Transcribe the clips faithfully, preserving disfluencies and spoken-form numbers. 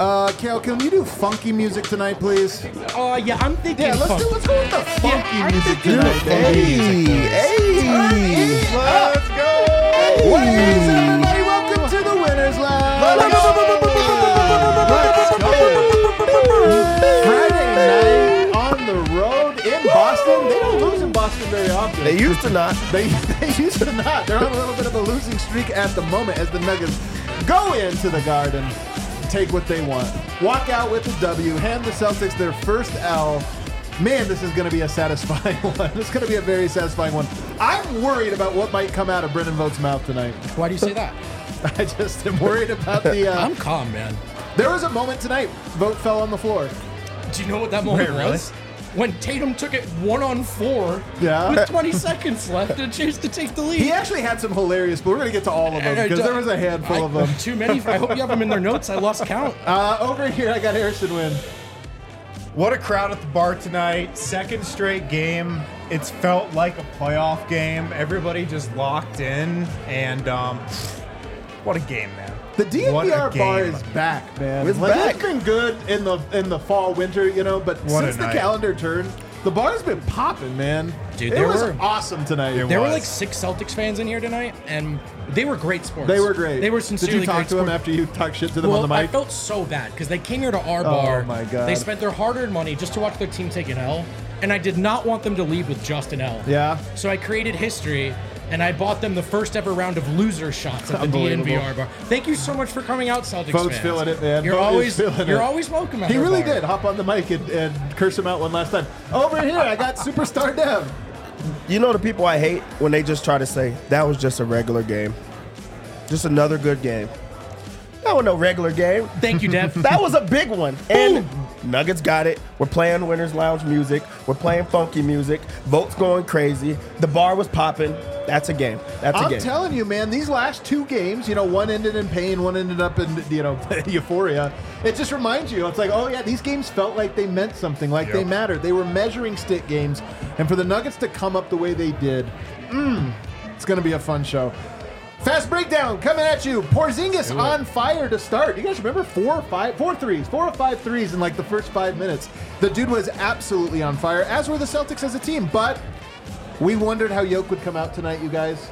Uh, Kale, can you do funky music tonight, please? Uh, yeah, I'm thinking. Yeah, let's funk. do. Let's go with the funky Yeah, I'm music thinking tonight, the baby. Hey, hey. Let's go. What is it, everybody? Welcome to the Winners Lounge. Let's go. Friday night on the road in Boston. They don't lose in Boston very often. They used to not. They, they used to not. They're on a little bit of a losing streak at the moment as the Nuggets go into the Garden, take what they want, walk out with the W, hand the Celtics their first L. Man, this is going to be a satisfying one. It's going to be a very satisfying one. I'm worried about what might come out of Brendan Vogt's mouth tonight. Why do you say that? I just am worried about the... Uh, I'm calm, man. there was a moment tonight, Vogt fell on the floor. Do you know what that moment Wait, really? was? When Tatum took it one on four Yeah. with twenty seconds left and chose to take the lead. He actually had some hilarious, but we're going to get to all of them Uh, because uh, there was a handful I- of them. Too many. I hope you have them in their notes. I lost count. Uh, over here, I got Harrison Wynn. What a crowd at the bar tonight. Second straight game. It's felt like a playoff game. Everybody just locked in. And um, what a game, man. The D N What V R a bar game. is back, man. It's like, back. It's been good in the in the fall, winter, you know, but What a since the night. calendar turned, the bar's been popping, man. Dude, it there was were- awesome tonight. It There were was. like six Celtics fans in here tonight, and they were great sports. They were great. They were Did sincerely you talk great to them sports. after you talked shit to them Well, on the I mic? felt so bad because they came here to our bar. my God. They spent their hard-earned money just to watch their team take an L, and I did not want them to leave with just an L. Yeah. So I created history, and I bought them the first ever round of loser shots at the D N V R Unbelievable. bar. Thank you so much for coming out, Celtics Vogt's fans. feeling it, man. You're Vogt is always feeling you're it. always welcome at He our really bar. did hop on the mic and, and curse him out one last time. Over here, I got Superstar Dev. You know the people I hate when they just try to say that was just a regular game, just another good game. That was no regular game. Thank you, Dev. That was a big one. And Nuggets got it. We're playing Winners Lounge music. We're playing funky music. Vogt's going crazy. The bar was popping. That's a game. That's a I'm game. telling you, man, these last two games, you know, one ended in pain, one ended up in, you know, euphoria. It just reminds you, it's like, oh, yeah, these games felt like they meant something, like Yep. they mattered. They were measuring stick games. And for the Nuggets to come up the way they did, mm, it's going to be a fun show. Fast breakdown coming at you. Porzingis on fire to start. You guys remember four or five, four threes, four or five threes in like the first five minutes. The dude was absolutely on fire, as were the Celtics as a team. But we wondered how Jokic would come out tonight, you guys.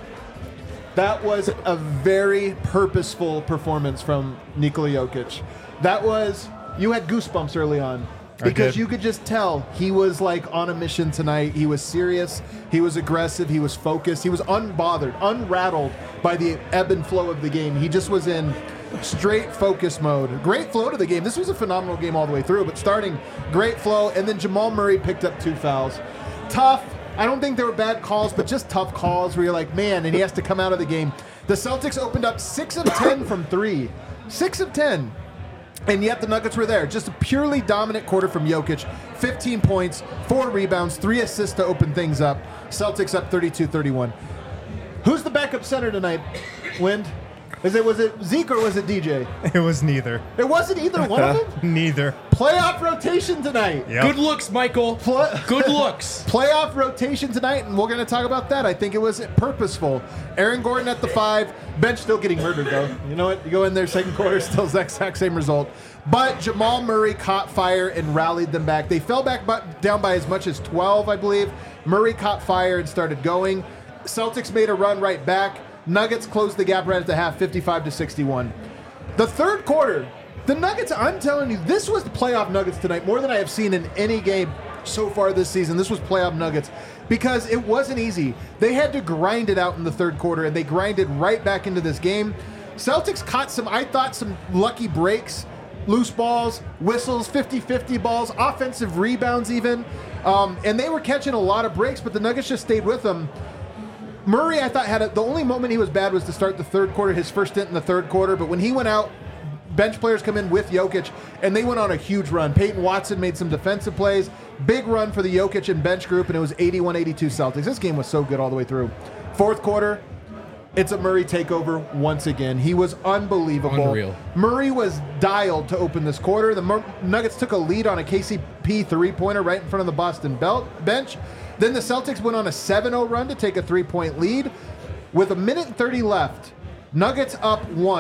That was a very purposeful performance from Nikola Jokic. That was, you had goosebumps early on. Because did. you could just tell he was like on a mission tonight. He was serious. He was aggressive. He was focused. He was unbothered, unrattled by the ebb and flow of the game. He just was in straight focus mode. Great flow to the game. This was a phenomenal game all the way through, but starting great flow. And then Jamal Murray picked up two fouls. Tough. I don't think they were bad calls, but just tough calls where you're like, man, and he has to come out of the game. The Celtics opened up six of ten from three. six of ten. And yet the Nuggets were there. Just a purely dominant quarter from Jokic. fifteen points, four rebounds, three assists to open things up. Celtics up thirty-two thirty-one. Who's the backup center tonight, Wind? Is it, was it Zeke or was it D J? It was neither. It wasn't either one of them. Neither. Playoff rotation tonight. Yep. Good looks, Michael. Pl- Good looks. Playoff rotation tonight, and we're going to talk about that. I think it was purposeful. Aaron Gordon at the five. Bench still getting murdered, though. You know what? You go in there, second quarter, still the exact same result. But Jamal Murray caught fire and rallied them back. They fell back bu- down by as much as twelve, I believe. Murray caught fire and started going. Celtics made a run right back. Nuggets closed the gap right at the half, fifty-five to sixty-one. The third quarter, the Nuggets, I'm telling you, this was the playoff Nuggets tonight, more than I have seen in any game so far this season. This was playoff Nuggets because it wasn't easy. They had to grind it out in the third quarter, and they grinded right back into this game. Celtics caught some, I thought, some lucky breaks, loose balls, whistles, fifty-fifty balls, offensive rebounds even, um, and they were catching a lot of breaks, but the Nuggets just stayed with them. Murray, I thought, had a, the only moment he was bad was to start the third quarter, his first stint in the third quarter. But when he went out, bench players come in with Jokic, and they went on a huge run. Peyton Watson made some defensive plays. Big run for the Jokic and bench group, and it was eighty-one eighty-two Celtics. This game was so good all the way through. Fourth quarter, it's a Murray takeover once again. He was unbelievable. Unreal. Murray was dialed to open this quarter. The Mur- Nuggets took a lead on a K C P three-pointer right in front of the Boston belt bench. Then the Celtics went on a seven oh run to take a three-point lead. With a minute and thirty left, Nuggets up one.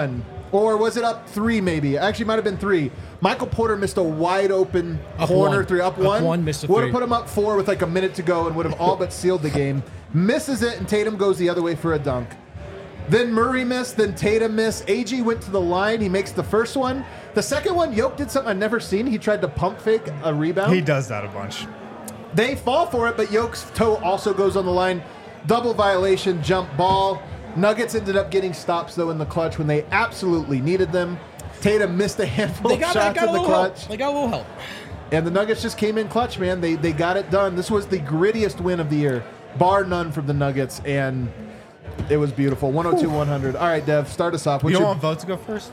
Or was it up three, maybe? Actually, it might have been three. Michael Porter missed a wide open Up corner one. three. Up, Up one. one, missed a Would have three. put him up four with like a minute to go and would have all but sealed the game. Misses it, and Tatum goes the other way for a dunk. Then Murray missed, then Tatum missed. A G went to the line. He makes the first one. The second one, Yoke did something I've never seen. He tried to pump fake a rebound. He does that a bunch. They fall for it, but Yoke's toe also goes on the line. Double violation, jump ball. Nuggets ended up getting stops, though, in the clutch when they absolutely needed them. Tatum missed a handful They of got, they shots got a in the little clutch. help. They got a little help. And the Nuggets just came in clutch, man. They they got it done. This was the grittiest win of the year, bar none from the Nuggets, and it was beautiful. one oh two one hundred. All right, Dev, start us off. What's You don't your- want Vote to go first?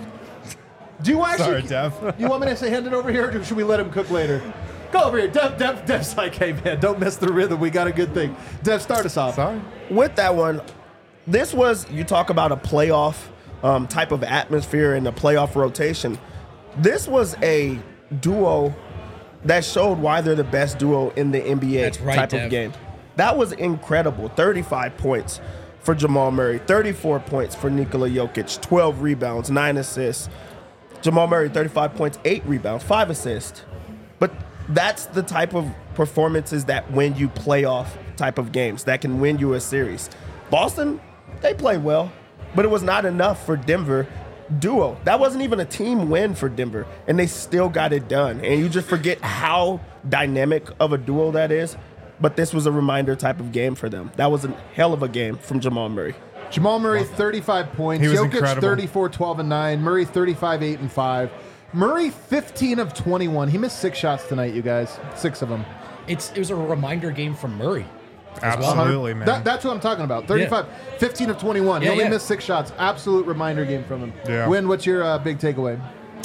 do you actually? Sorry, Dev. You want me to say hand it over here, or should we let him cook later? Go over here. Dev, Dev, Dev's like, hey, man, don't mess the rhythm. We got a good thing. Dev, start us off. Sorry. With that one, this was, you talk about a playoff um, type of atmosphere and a playoff rotation. This was a duo that showed why they're the best duo in the N B A That's right, type Dev. of game. That was incredible. thirty-five points for Jamal Murray, thirty-four points for Nikola Jokic, twelve rebounds, nine assists. Jamal Murray, thirty-five points, eight rebounds, five assists. But that's the type of performances that win you playoff type of games, that can win you a series. Boston, they played well, but it was not enough for Denver duo. That wasn't even a team win for Denver, and they still got it done. And you just forget how dynamic of a duo that is. But this was a reminder type of game for them. That was a hell of a game from Jamal Murray. Jamal Murray, thirty-five points. He was Jokic, incredible. thirty-four, twelve, and nine. Murray, thirty-five, eight, and five. Murray, fifteen of twenty-one. He missed six shots tonight, you guys. Six of them. It's It was a reminder game from Murray. Absolutely, man. That, that's what I'm talking about. thirty-five, fifteen of twenty-one. he Yeah, only yeah. missed six shots. Absolute reminder game from him. Yeah. Win, what's your uh, big takeaway?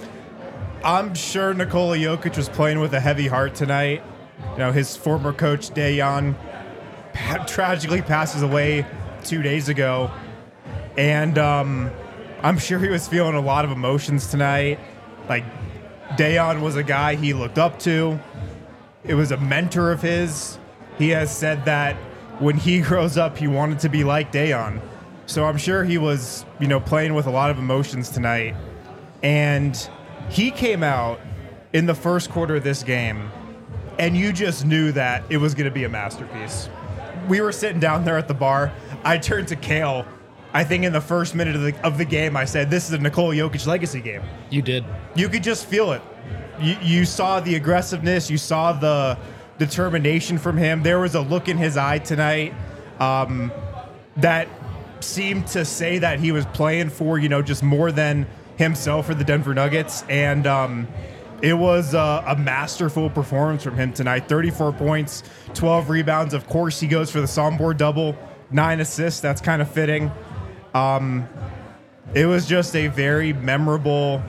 I'm sure Nikola Jokic was playing with a heavy heart tonight. You know, his former coach, Dejan, pa- tragically passes away two days ago. And um, I'm sure he was feeling a lot of emotions tonight. Like, Dejan was a guy he looked up to. It was a mentor of his. He has said that when he grows up, he wanted to be like Dejan. So I'm sure he was, you know, playing with a lot of emotions tonight. And he came out in the first quarter of this game, and you just knew that it was going to be a masterpiece. We were sitting down there at the bar. I turned to Kale. I think in the first minute of the, of the game, I said, this is a Nikola Jokic legacy game. You did. You could just feel it. You, you saw the aggressiveness. You saw the determination from him. There was a look in his eye tonight um, that seemed to say that he was playing for, you know, just more than himself for the Denver Nuggets. And um, it was a, a masterful performance from him tonight. thirty-four points, twelve rebounds. Of course, he goes for the soundboard double, nine assists. That's kind of fitting. Um, it was just a very memorable.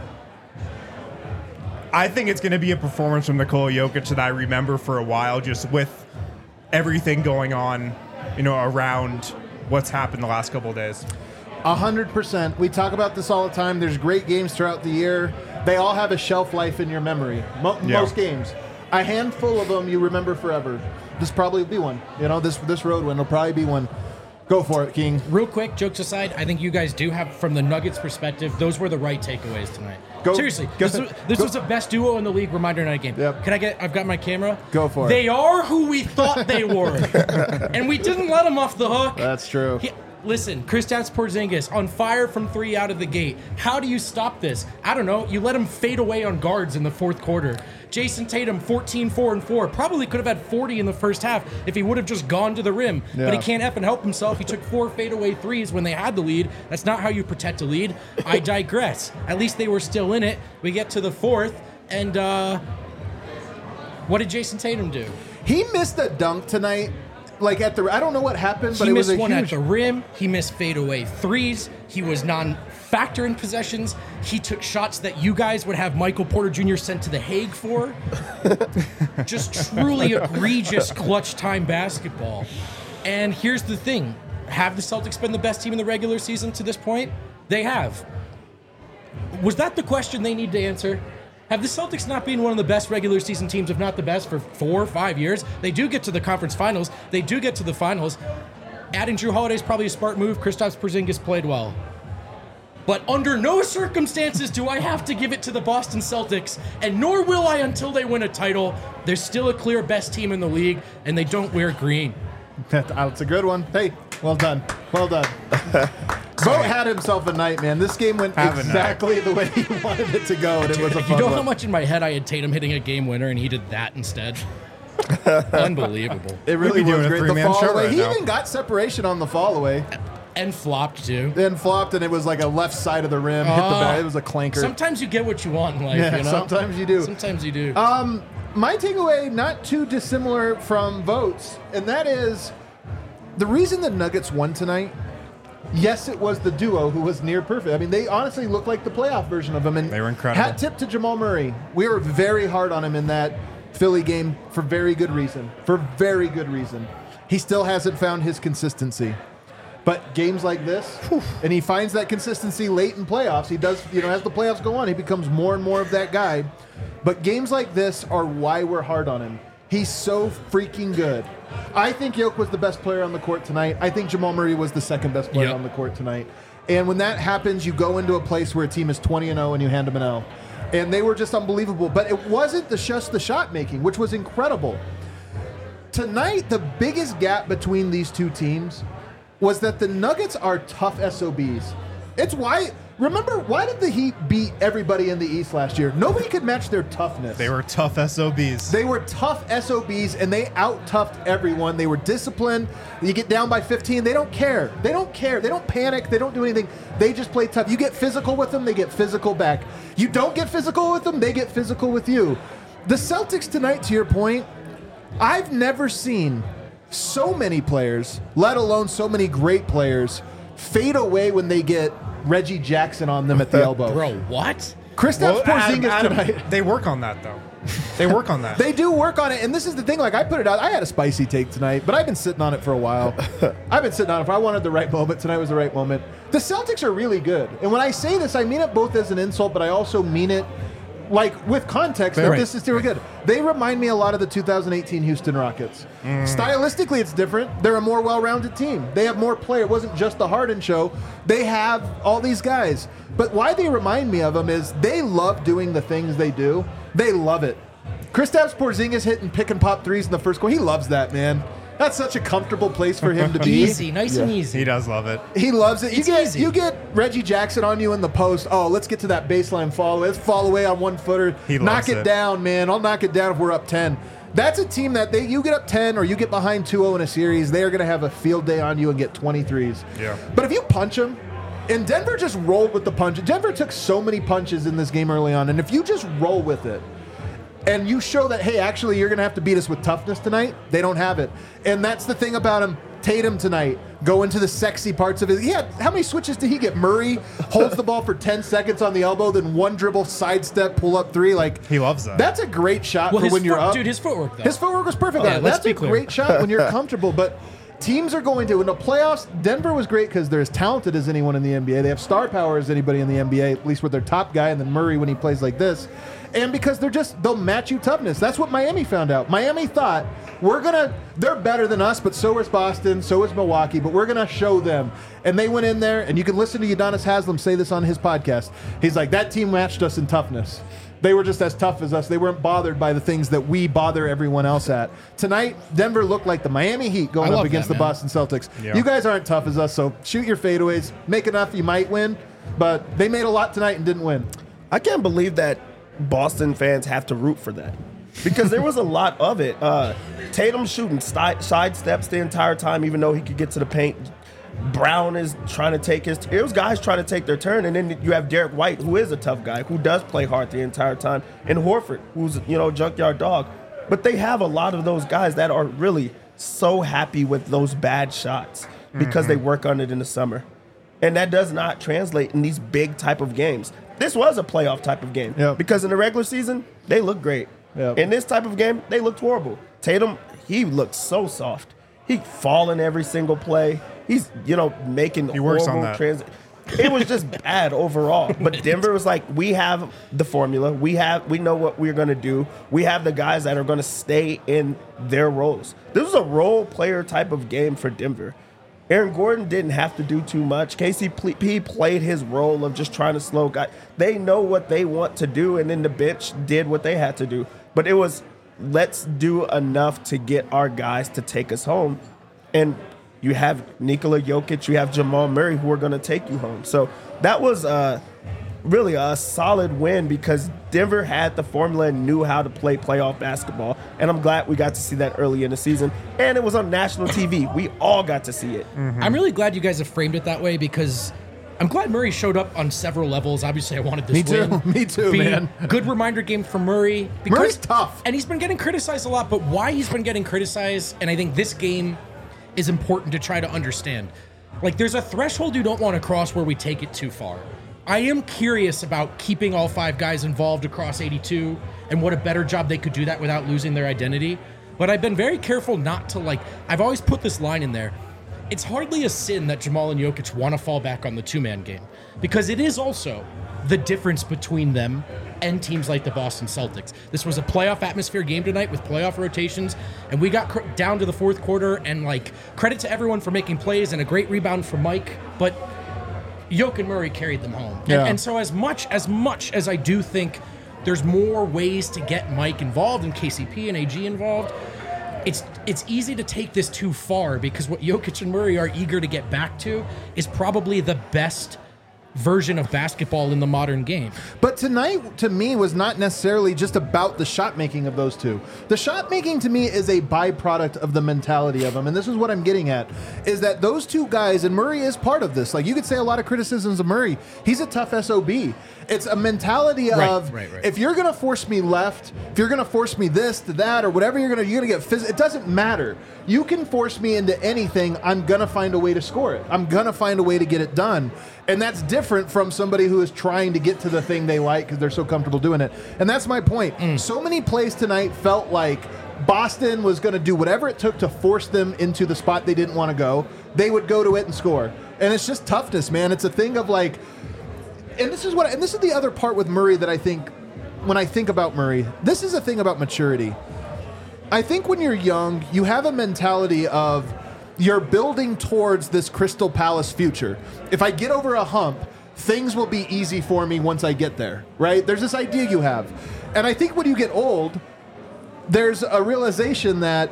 I think it's going to be a performance from Nikola Jokic that I remember for a while, just with everything going on, you know, around what's happened the last couple of days. A hundred percent. We talk about this all the time. There's great games throughout the year. They all have a shelf life in your memory. Mo- Yeah. Most games. A handful of them you remember forever. This probably will be one. You know, this this road win will probably be one. Go for it, King. Real quick, jokes aside, I think you guys do have, from the Nuggets' perspective, those were the right takeaways tonight. Go- Seriously, go- this, was, this go- was the best duo in the league reminder night game. Yep. Can I get? I've got my camera. Go for it. They are who we thought they were, and we didn't let them off the hook. That's true. He- listen, Kristaps Porzingis on fire from three out of the gate. How do you stop this? I don't know. You let him fade away on guards in the fourth quarter. Jason Tatum, fourteen, four, and four. Probably could have had forty in the first half if he would have just gone to the rim. Yeah. But he can't effing help himself. He took four fadeaway threes when they had the lead. That's not how you protect a lead. I digress. At least they were still in it. We get to the fourth, and uh, what did Jason Tatum do? He missed a dunk tonight. Like at the, I don't know what happened, but He it was missed a one huge. at the rim. He missed fadeaway threes. He was non-factor in possessions. He took shots that you guys would have Michael Porter Junior sent to The Hague for. Just truly egregious clutch time basketball. And here's the thing. Have the Celtics been the best team in the regular season to this point? They have. Was that the question they need to answer? Have the Celtics not been one of the best regular season teams, if not the best, for four or five years? They do get to the conference finals. They do get to the finals. Adding Drew Holiday is probably a smart move. Kristaps Porzingis played well. But under no circumstances do I have to give it to the Boston Celtics, and nor will I until they win a title. They're still a clear best team in the league, and they don't wear green. That's a good one. Hey, well done. Well done. Vogt had himself a night, man. This game went Have a exactly the way he wanted it to go, and it was a You fun know one. how much in my head I had Tatum hitting a game winner, and he did that instead? Unbelievable. It really We'd be was doing a great. The three-man fall show away. right He now. even got separation on the fall away. And flopped, too. Then flopped, and it was like a left side of the rim. Hit the Oh. back. It was a clanker. Sometimes you get what you want in life, Yeah, you know? sometimes you do. Sometimes you do. Um, my takeaway, not too dissimilar from Vogt's, and that is the reason the Nuggets won tonight. Yes, it was the duo who was near perfect. I mean, they honestly looked like the playoff version of him. And They were incredible. Hat tip to Jamal Murray. We were very hard on him in that Philly game for very good reason. For very good reason. He still hasn't found his consistency. But games like this, and he finds that consistency late in playoffs. He does, you know, as the playoffs go on, he becomes more and more of that guy. But games like this are why we're hard on him. He's so freaking good. I think Jokic was the best player on the court tonight. I think Jamal Murray was the second best player Yep. on the court tonight. And when that happens, you go into a place where a team is twenty and oh and you hand them an L. And they were just unbelievable. But it wasn't the just the shot making, which was incredible. Tonight, the biggest gap between these two teams was that the Nuggets are tough S O Bs. It's why, remember, why did the Heat beat everybody in the East last year? Nobody could match their toughness. They were tough S O Bs. They were tough S O Bs, and they out-toughed everyone. They were disciplined. You get down by fifteen, they don't care. They don't care. They don't panic. They don't do anything. They just play tough. You get physical with them, they get physical back. You don't get physical with them, they get physical with you. The Celtics tonight, to your point, I've never seen so many players, let alone so many great players, fade away when they get Reggie Jackson on them at the elbow. Bro, what? Kristaps Adam- Porzingis Adam, tonight. they work on that, though. They work on that. They do work on it, and this is the thing. Like I put it out, I had a spicy take tonight, but I've been sitting on it for a while. I've been sitting on it for. I wanted the right moment. Tonight was the right moment. The Celtics are really good, and when I say this, I mean it both as an insult, but I also mean it like with context. That Right. this is still good. They remind me a lot of the two thousand eighteen Houston Rockets. Stylistically, it's different. They're a more well-rounded team. They have more play. It wasn't just the Harden show. They have all these guys. But why they remind me of them is they love doing the things they do. They love it. Kristaps Porzingis hitting pick and pop threes in the first quarter. He loves that, man. That's such a comfortable place for him to be. Easy, nice and Yeah. easy. He does love it. He loves it. You It's get easy. you get Reggie Jackson on you in the post. Oh, let's get to that baseline follow. Let's fall away on one footer. He knock loves it, it. down, man. I'll knock it down if we're up ten. That's a team that they you get up ten or you get behind two oh in a series, they are going to have a field day on you and get twenty-threes. Yeah. But if you punch them, and Denver just rolled with the punch. Denver took so many punches in this game early on, and if you just roll with it, and you show that, hey, actually, you're going to have to beat us with toughness tonight, they don't have it. And that's the thing about him. Tatum tonight, go into the sexy parts of it. He had, how many switches did he get? Murray holds the ball for ten seconds on the elbow, then one dribble, sidestep, pull up three. Like He loves that. That's a great shot Well, for his when you're foot- up. dude, his footwork, though. His footwork was perfect. Oh, yeah, let's that's be a clear. great shot when you're comfortable. But teams are going to, in the playoffs, Denver was great because they're as talented as anyone in the N B A. They have star power as anybody in the N B A, at least with their top guy, and then Murray when he plays like this. And because they're just, they'll match you toughness. That's what Miami found out. Miami thought, we're going to, they're better than us, but so is Boston, so is Milwaukee, but we're going to show them. And they went in there, and you can listen to Udonis Haslem say this on his podcast. He's like, that team matched us in toughness. They were just as tough as us. They weren't bothered by the things that we bother everyone else at. Tonight, Denver looked like the Miami Heat going I up love against that, the man. Boston Celtics. Yeah. You guys aren't tough as us, so shoot your fadeaways. Make enough, you might win. But they made a lot tonight and didn't win. I can't believe that Boston fans have to root for that because there was a lot of it. Uh, Tatum shooting side, side steps the entire time, even though he could get to the paint. Brown is trying to take his. It was guys trying to take their turn, and then you have Derek White, who is a tough guy, who does play hard the entire time, and Horford, who's you know junkyard dog. But they have a lot of those guys that are really so happy with those bad shots because they work on it in the summer, and that does not translate in these big type of games. This was a playoff type of game Yep. because in the regular season they looked great. Yep. In this type of game, they looked horrible. Tatum, he looked so soft. He falling every single play. He's you know making He works on horrible that. trans- It was just bad overall. But Denver was like, we have the formula. We have we know what we're gonna do. We have the guys that are gonna stay in their roles. This was a role player type of game for Denver. Aaron Gordon didn't have to do too much. K C P played his role of just trying to slow guys. They know what they want to do, and then the bench did what they had to do. But it was, let's do enough to get our guys to take us home. And you have Nikola Jokic, you have Jamal Murray who are going to take you home. So that was uh, really a solid win because Denver had the formula and knew how to play playoff basketball. And I'm glad we got to see that early in the season. And it was on national T V. We all got to see it. Mm-hmm. I'm really glad you guys have framed it that way because I'm glad Murray showed up on several levels. Obviously, I wanted this Me too. win. Me too, Be man. Good reminder game for Murray. Because, Murray's tough. And he's been getting criticized a lot, but why he's been getting criticized, and I think this game is important to try to understand. Like, there's a threshold you don't want to cross where we take it too far. I am curious about keeping all five guys involved across eighty-two and what a better job they could do that without losing their identity. But I've been very careful not to, like, I've always put this line in there. It's hardly a sin that Jamal and Jokic want to fall back on the two-man game because it is also the difference between them and teams like the Boston Celtics. This was a playoff atmosphere game tonight with playoff rotations, and we got cr- down to the fourth quarter, and, like, credit to everyone for making plays and a great rebound from Mike, but Jokic and Murray carried them home. Yeah. And, and so as much, as much as I do think there's more ways to get Mike involved and K C P and A G involved, It's it's easy to take this too far because what Jokic and Murray are eager to get back to is probably the best version of basketball in the modern game. But tonight, to me, was not necessarily just about the shot making of those two. The shot making, to me, is a byproduct of the mentality of them. And this is what I'm getting at, is that those two guys, and Murray is part of this. Like, you could say a lot of criticisms of Murray. He's a tough S O B. It's a mentality Right, of, right, right. if you're going to force me left, if you're going to force me this to that, or whatever you're going to, you're going to get physical. It doesn't matter. You can force me into anything. I'm going to find a way to score it. I'm going to find a way to get it done. And that's different from somebody who is trying to get to the thing they like because they're so comfortable doing it. And that's my point. Mm. So many plays tonight felt like Boston was going to do whatever it took to force them into the spot they didn't want to go. They would go to it and score. And it's just toughness, man. It's a thing of like, and this is what, and this is the other part with Murray that I think, when I think about Murray, this is a thing about maturity. I think when you're young, you have a mentality of, you're building towards this Crystal Palace future. If I get over a hump, things will be easy for me once I get there, right? There's this idea you have. And I think when you get old, there's a realization that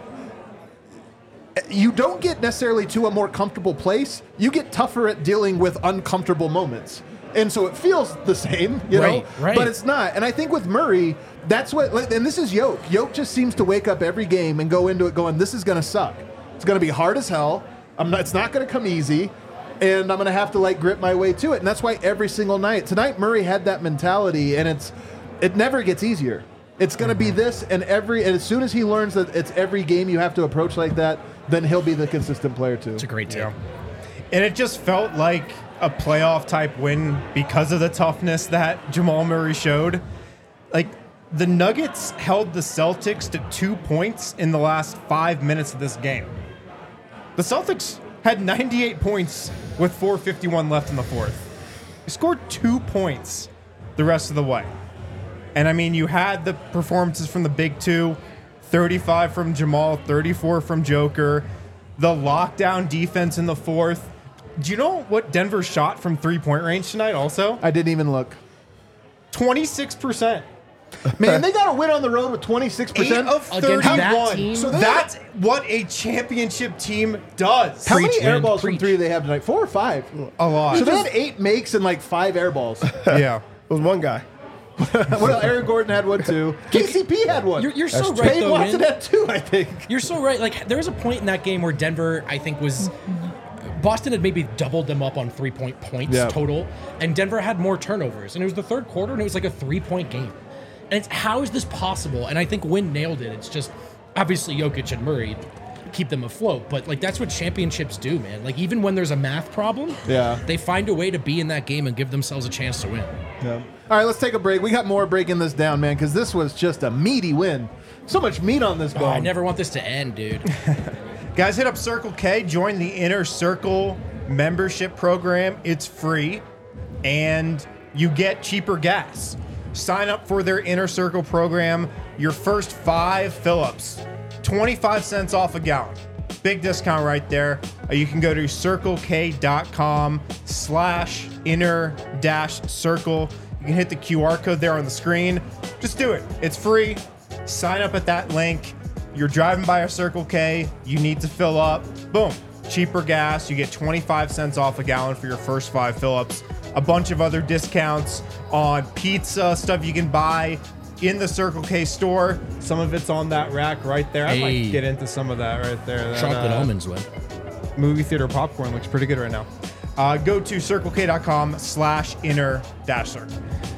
you don't get necessarily to a more comfortable place. You get tougher at dealing with uncomfortable moments. And so it feels the same, you Right, know, right. but it's not. And I think with Murray, that's what, and this is Yoke. Yoke just seems to wake up every game and go into it going, this is going to suck. It's going to be hard as hell. I'm not, it's not going to come easy. And I'm going to have to like grip my way to it. And that's why every single night, tonight Murray had that mentality, and it's, it never gets easier. It's going to be this, and every, and as soon as he learns that it's every game you have to approach like that, then he'll be the consistent player too. It's a great team. Yeah. And it just felt like a playoff type win because of the toughness that Jamal Murray showed. Like, the Nuggets held the Celtics to two points in the last five minutes of this game. The Celtics had ninety-eight points with four fifty-one left in the fourth. They scored two points the rest of the way. And I mean, you had the performances from the big two, thirty-five from Jamal, thirty-four from Joker, the lockdown defense in the fourth. Do you know what Denver shot from three-point range tonight also? I didn't even look. twenty-six percent. Man, they got to win on the road with twenty-six Eight percent. of Against that thirty-one. team? So they- That's what a championship team does. How Preach, many air man, balls from preach. three do they have tonight? Four or five? A lot. So they had eight makes and like five air balls. Yeah. It was one guy. Well, Aaron Gordon had one too. K C P had one. You're, you're so right, Dave though, Watson man. had two, I think. You're so right. Like, there was a point in that game where Denver, I think, was... Boston had maybe doubled them up on three-point points Yeah. total, and Denver had more turnovers. And it was the third quarter, and it was like a three-point game. And it's, how is this possible? And I think Wynn nailed it. It's just, obviously, Jokic and Murray keep them afloat. But, like, that's what championships do, man. Like, even when there's a math problem, Yeah. they find a way to be in that game and give themselves a chance to win. Yeah. All right, let's take a break. We got more breaking this down, man, because this was just a meaty win. So much meat on this Oh, ball. I never want this to end, dude. Guys, hit up Circle K. Join the Inner Circle membership program. It's free, and you get cheaper gas. Sign up for their Inner Circle program. Your first five fill-ups, twenty-five cents off a gallon. big discount right there. Uh, you can go to circlek.com slash inner dash circle. You can hit the Q R code there on the screen. Just do it. It's free. Sign up at that link. You're driving by a Circle K. You need to fill up. Boom. Cheaper gas. You get twenty-five cents off a gallon for your first five fill-ups. A bunch of other discounts on pizza, stuff you can buy in the Circle K store. Some of it's on that rack right there. I Hey. might get into some of that right there. That, Chocolate uh, almonds, win. movie theater popcorn looks pretty good right now. Uh, go to circlek.com slash inner dash circle.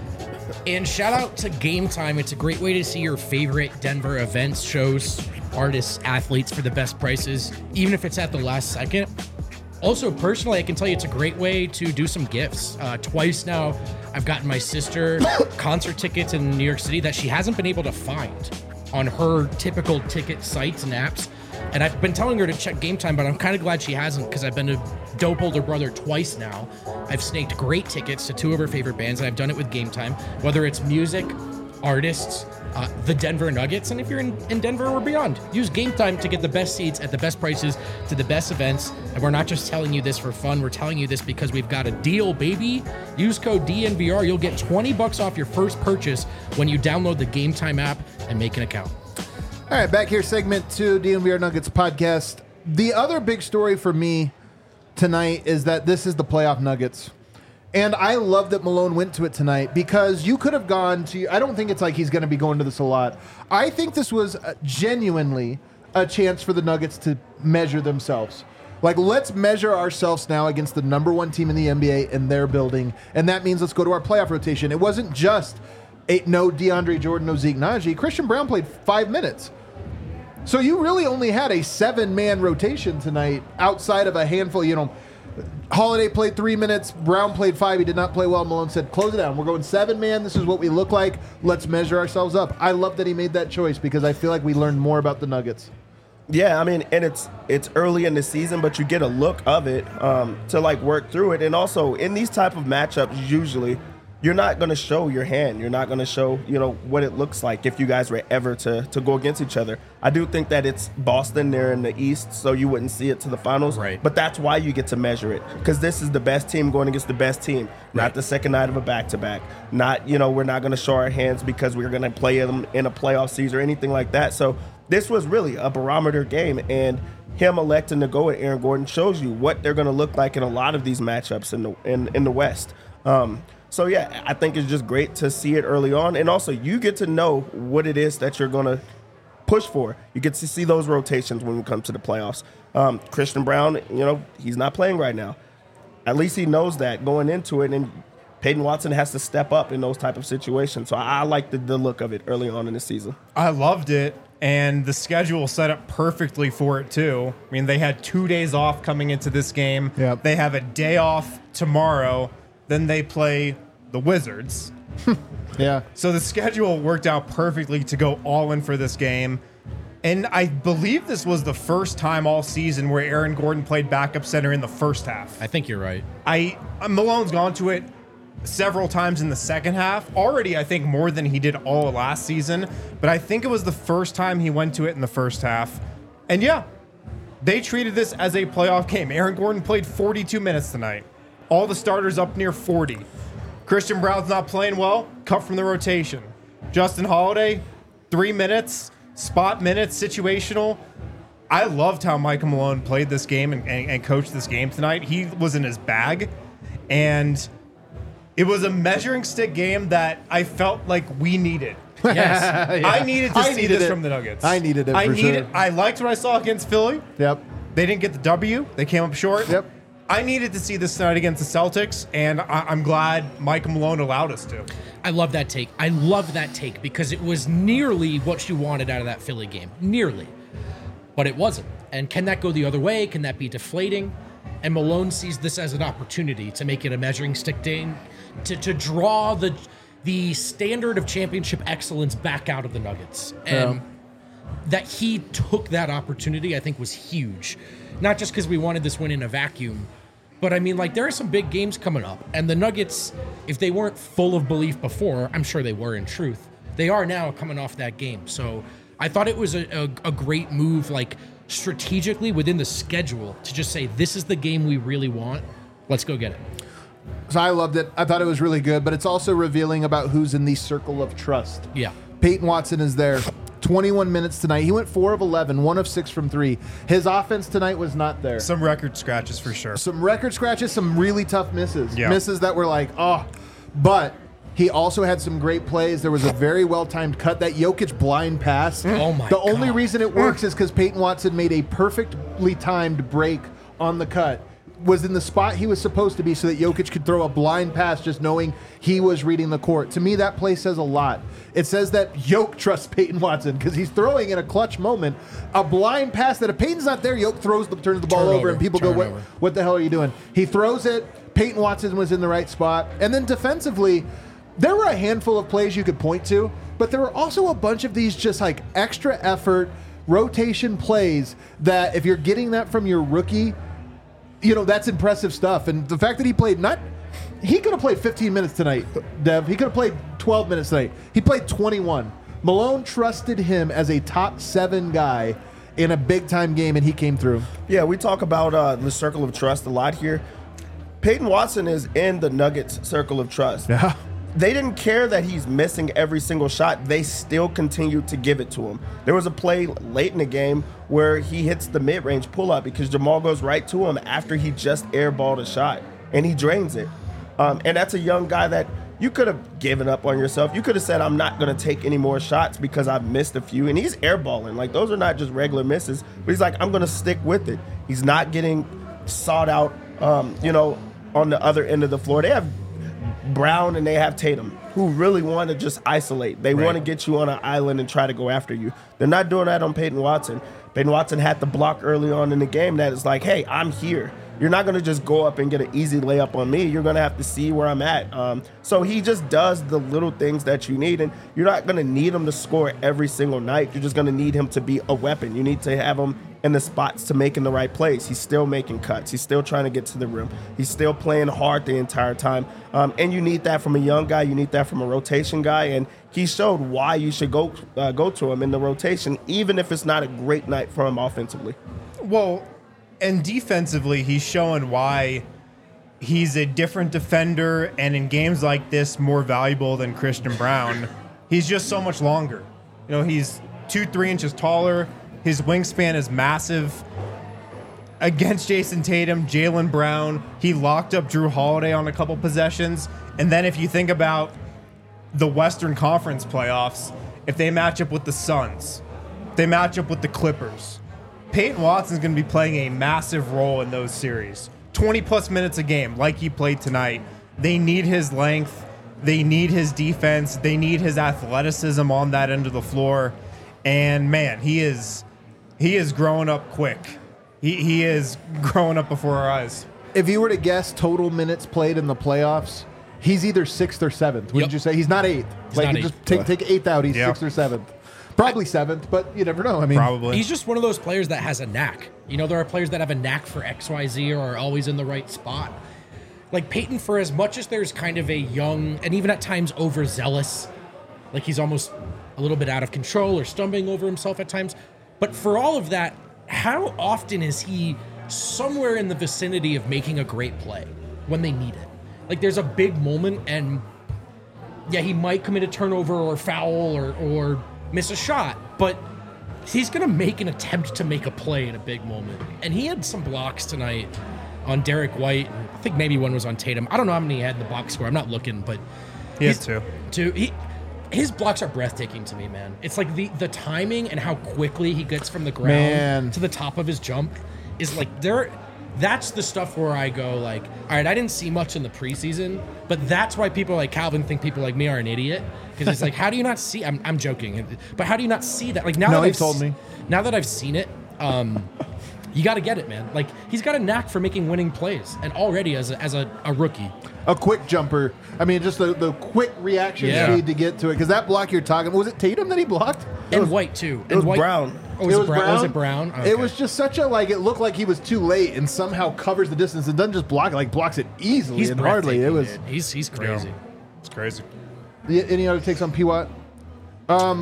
And shout out to Game Time. It's a great way to see your favorite Denver events, shows, artists, athletes for the best prices, even if it's at the last second. Also, personally, I can tell you it's a great way to do some gifts. Uh, twice now, I've gotten my sister concert tickets in New York City that she hasn't been able to find on her typical ticket sites and apps. And I've been telling her to check Game Time, but I'm kind of glad she hasn't because I've been a dope older brother twice now. I've snaked great tickets to two of her favorite bands, and I've done it with Game Time, whether it's music, artists, uh, the Denver Nuggets, and if you're in, in Denver or beyond, use Game Time to get the best seats at the best prices to the best events. And we're not just telling you this for fun, we're telling you this because we've got a deal, baby. Use code D N V R. You'll get twenty bucks off your first purchase when you download the Game Time app and make an account. All right, back here, segment two, D N V R Nuggets podcast. The other big story for me tonight is that this is the playoff Nuggets. And I love that Malone went to it tonight because you could have gone to, I don't think it's like he's going to be going to this a lot. I think this was genuinely a chance for the Nuggets to measure themselves. Like, let's measure ourselves now against the number one team in the N B A in their building. And that means let's go to our playoff rotation. It wasn't just a, no DeAndre Jordan, no Zeke Naji. Christian Brown played five minutes. So you really only had a seven-man rotation tonight outside of a handful, you know, Holiday played three minutes. Brown played five. He did not play well. Malone said, close it down. We're going seven man. This is what we look like. Let's measure ourselves up. I love that he made that choice because I feel like we learned more about the Nuggets. Yeah, I mean, and it's it's early in the season, but you get a look of it um, to like work through it. And also in these type of matchups, usually you're not going to show your hand. You're not going to show, you know, what it looks like if you guys were ever to to go against each other. I do think that it's Boston. They're in the East, so you wouldn't see it to the finals. Right. But that's why you get to measure it, because this is the best team going against the best team, not Right. the second night of a back-to-back. Not, you know, we're not going to show our hands because we're going to play them in a playoff series or anything like that. So this was really a barometer game, and him electing to go with Aaron Gordon shows you what they're going to look like in a lot of these matchups in the in, in the West. Um, so, yeah, I think it's just great to see it early on. And also, you get to know what it is that you're going to push for. You get to see those rotations when we come to the playoffs. Um, Christian Brown, you know, he's not playing right now. At least he knows that going into it, and Peyton Watson has to step up in those type of situations. So I, I like the, the look of it early on in the season. I loved it, and the schedule set up perfectly for it, too. I mean, they had two days off coming into this game. Yep. They have a day off tomorrow. Then they play the Wizards. Yeah. So the schedule worked out perfectly to go all in for this game. And I believe this was the first time all season where Aaron Gordon played backup center in the first half. I think you're right. I Malone's gone to it several times in the second half. Already, I think, more than he did all of last season. But I think it was the first time he went to it in the first half. And yeah, they treated this as a playoff game. Aaron Gordon played forty-two minutes tonight. All the starters up near forty. Christian Brown's not playing well, cut from the rotation. Justin Holiday, three minutes, spot minutes, situational. I loved how Michael Malone played this game and, and, and coached this game tonight. He was in his bag, and it was a measuring stick game that I felt like we needed. Yes. Yeah. I needed to I see needed this it. from the Nuggets. I needed it I for needed. sure. I liked what I saw against Philly. Yep. They didn't get the W. They came up short. Yep. I needed to see this tonight against the Celtics, and I- I'm glad Mike Malone allowed us to. I love that take. I love that take because it was nearly what you wanted out of that Philly game. Nearly. But it wasn't. And can that go the other way? Can that be deflating? And Malone sees this as an opportunity to make it a measuring stick game, to, to draw the the standard of championship excellence back out of the Nuggets. And Yeah. that he took that opportunity, I think, was huge. Not just because we wanted this win in a vacuum, but I mean, like, there are some big games coming up. And the Nuggets, if they weren't full of belief before, I'm sure they were in truth, they are now coming off that game. So I thought it was a, a, a great move. Like, strategically within the schedule to just say, this is the game we really want. Let's go get it. So I loved it. I thought it was really good, but it's also revealing about who's in the circle of trust. Yeah. Peyton Watson is there. twenty-one minutes tonight. He went four of eleven, one of six from three. His offense tonight was not there. Some record scratches for sure. Some record scratches, some really tough misses. Yeah. Misses that were like, oh. But he also had some great plays. There was a very well-timed cut. That Jokic blind pass. Oh, my The only God. reason it works is because Peyton Watson made a perfectly timed break on the cut. Was in the spot he was supposed to be so that Jokic could throw a blind pass just knowing he was reading the court. To me, that play says a lot. It says that Jokic trusts Peyton Watson because he's throwing in a clutch moment a blind pass that if Peyton's not there, Jokic throws the, turns the ball Turnover. over and people go, what, Turnover. what the hell are you doing? He throws it. Peyton Watson was in the right spot. And then defensively, there were a handful of plays you could point to, but there were also a bunch of these just like extra effort rotation plays that if you're getting that from your rookie, you know, that's impressive stuff. And the fact that he played not, he could have played fifteen minutes tonight, Dev. He could have played twelve minutes tonight. He played twenty-one. Malone trusted him as a top seven guy in a big time game, and he came through. Yeah, we talk about uh, the circle of trust a lot here. Peyton Watson is in the Nuggets circle of trust. Yeah. They didn't care that he's missing every single shot. They still continued to give it to him. There was a play late in the game where he hits the mid-range pull-up because Jamal goes right to him after he just airballed a shot, and he drains it. Um, and that's a young guy that you could have given up on yourself. You could have said, I'm not going to take any more shots because I've missed a few. And he's airballing. Like, those are not just regular misses. But he's like, I'm going to stick with it. He's not getting sought out, um, you know, on the other end of the floor. They have Brown and they have Tatum, who really want to just isolate. They Right. want to get you on an island and try to go after you. They're not doing that on Peyton Watson. Peyton Watson had the block early on in the game that is like, hey, I'm here. You're not going to just go up and get an easy layup on me. You're going to have to see where I'm at. Um, so he just does the little things that you need, and you're not going to need him to score every single night. You're just going to need him to be a weapon. You need to have him in the spots to make in the right plays. He's still making cuts. He's still trying to get to the rim. He's still playing hard the entire time. Um, and you need that from a young guy. You need that from a rotation guy. And he showed why you should go uh, go to him in the rotation, even if it's not a great night for him offensively. Well, and defensively, he's showing why he's a different defender, and in games like this, more valuable than Christian Brown. He's just so much longer. You know, he's two, three inches taller. His wingspan is massive. Against Jason Tatum, Jaylen Brown, he locked up Drew Holiday on a couple possessions. And then if you think about the Western Conference playoffs, if they match up with the Suns, if they match up with the Clippers, Peyton Watson's going to be playing a massive role in those series. twenty plus minutes a game, like he played tonight. They need his length. They need his defense. They need his athleticism on that end of the floor. And man, he is he is growing up quick. He he is growing up before our eyes. If you were to guess total minutes played in the playoffs, he's either sixth or seventh. Wouldn't Yep. you say? He's not eighth. He's like not you eighth. just take take eighth out, he's Yeah. sixth or seventh. Probably seventh, but you never know. I mean, Probably. He's just one of those players that has a knack. You know, there are players that have a knack for X Y Z or are always in the right spot. Like Peyton, for as much as there's kind of a young and even at times overzealous, like he's almost a little bit out of control or stumbling over himself at times. But for all of that, how often is he somewhere in the vicinity of making a great play when they need it? Like there's a big moment and yeah, he might commit a turnover or foul or, or miss a shot, but he's going to make an attempt to make a play in a big moment. And he had some blocks tonight on Derek White. I think maybe one was on Tatum. I don't know how many he had in the box score. I'm not looking, but He has he's- two. Two. He, his blocks are breathtaking to me, man. It's like the, the timing and how quickly he gets from the ground Man. to the top of his jump is like there. That's the stuff where I go like, all right, I didn't see much in the preseason, but that's why people like Calvin think people like me are an idiot because it's like, how do you not see? I'm, I'm joking, but how do you not see that? Like now No, that he I've told s- me. Now that I've seen it, um, you got to get it, man. Like he's got a knack for making winning plays, and already as a, as a, a rookie, a quick jumper. I mean, just the, the quick reaction Yeah. speed to get to it. Because that block you're talking, was it Tatum that he blocked? and White too. It and was White, Brown. Oh, was it, Brown? Was it Brown? It Okay. was just such a like. It looked like he was too late, and somehow covers the distance and doesn't just block it. Like blocks it easily He's and hardly. It breathtaking, was. dude. He's he's crazy. It's crazy. Yeah, any other takes on P. Watt? Um,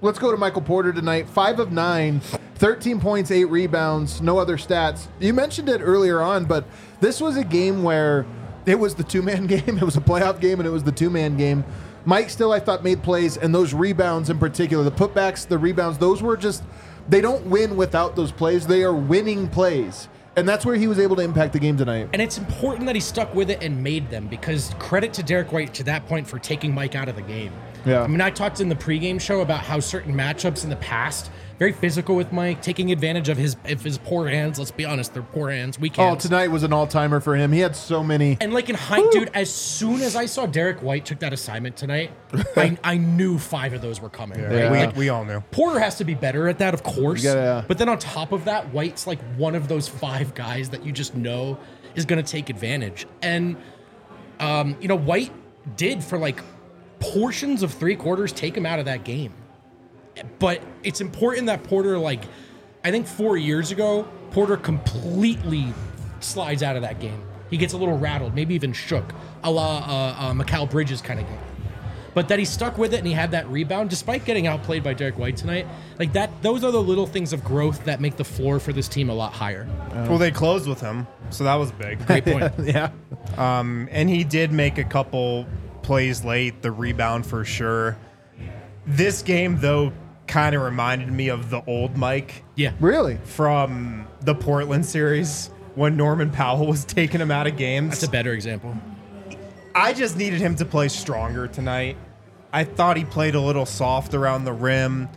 let's go to Michael Porter tonight. Five of nine, thirteen points, eight rebounds, no other stats. You mentioned it earlier on, but this was a game where it was the two-man game. It was a playoff game, and it was the two-man game. Mike still, I thought, made plays, and those rebounds in particular, the putbacks, the rebounds, those were just, they don't win without those plays. They are winning plays. And that's where he was able to impact the game tonight. And it's important that he stuck with it and made them, because credit to Derek White to that point for taking Mike out of the game. Yeah. I mean, I talked in the pregame show about how certain matchups in the past, very physical with Mike, taking advantage of his of his poor hands. Let's be honest, they're poor hands, weak hands. Oh, tonight was an all-timer for him. He had so many. And like in height, dude, as soon as I saw Derek White took that assignment tonight, I, I knew five of those were coming. Yeah, right? we, Like, we all knew. Porter has to be better at that, of course. Yeah, yeah. But then on top of that, White's like one of those five guys that you just know is going to take advantage. And, um, you know, White did for like portions of three quarters take him out of that game. But it's important that Porter, like, I think four years ago, Porter completely slides out of that game. He gets a little rattled, maybe even shook, a la uh, uh, Mikal Bridges kind of game. But that he stuck with it and he had that rebound, despite getting outplayed by Derek White tonight. Like that, those are the little things of growth that make the floor for this team a lot higher. Well, they closed with him, so that was big. Great point. Yeah. Um, and he did make a couple plays late, the rebound for sure. This game, though, kind of reminded me of the old Mike Yeah. Really? from the Portland series when Norman Powell was taking him out of games. That's a better example. I just needed him to play stronger tonight. I thought he played a little soft around the rim,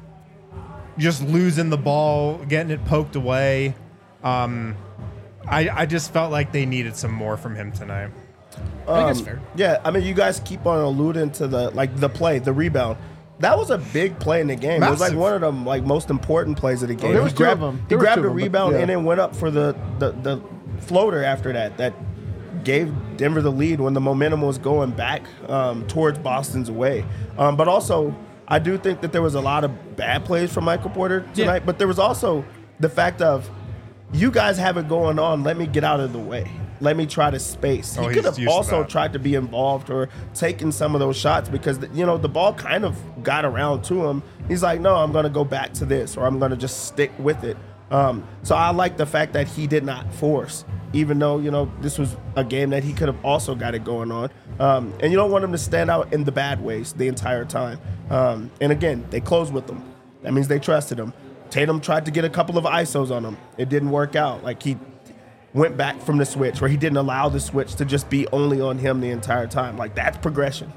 just losing the ball, getting it poked away. Um, I, I just felt like they needed some more from him tonight. I think that's fair. Yeah, I mean, you guys keep on alluding to the like the play, the rebound. That was a big play in the game. It was like Massive. one of the like most important plays of the game. there was he two grabbed, of them. He There were grabbed two a of them, but- rebound yeah. and then went up for the, the the floater after that. That gave Denver the lead when the momentum was going back um, towards Boston's way. Um, but also, I do think that there was a lot of bad plays from Michael Porter tonight. Yeah. But there was also the fact of, you guys have it going on. Let me get out of the way. Let me try to space. Oh, he he's could have used to also that. tried to be involved or taken some of those shots because, you know, the ball kind of got around to him. He's like, no, I'm going to go back to this or I'm going to just stick with it. Um, so I like the fact that he did not force, even though, you know, this was a game that he could have also got it going on. Um, and you don't want him to stand out in the bad ways the entire time. Um, and again, they closed with him. That means they trusted him. Tatum tried to get a couple of I S Os on him. It didn't work out. Like he went back from the switch, where he didn't allow the switch to just be only on him the entire time. Like that's progression.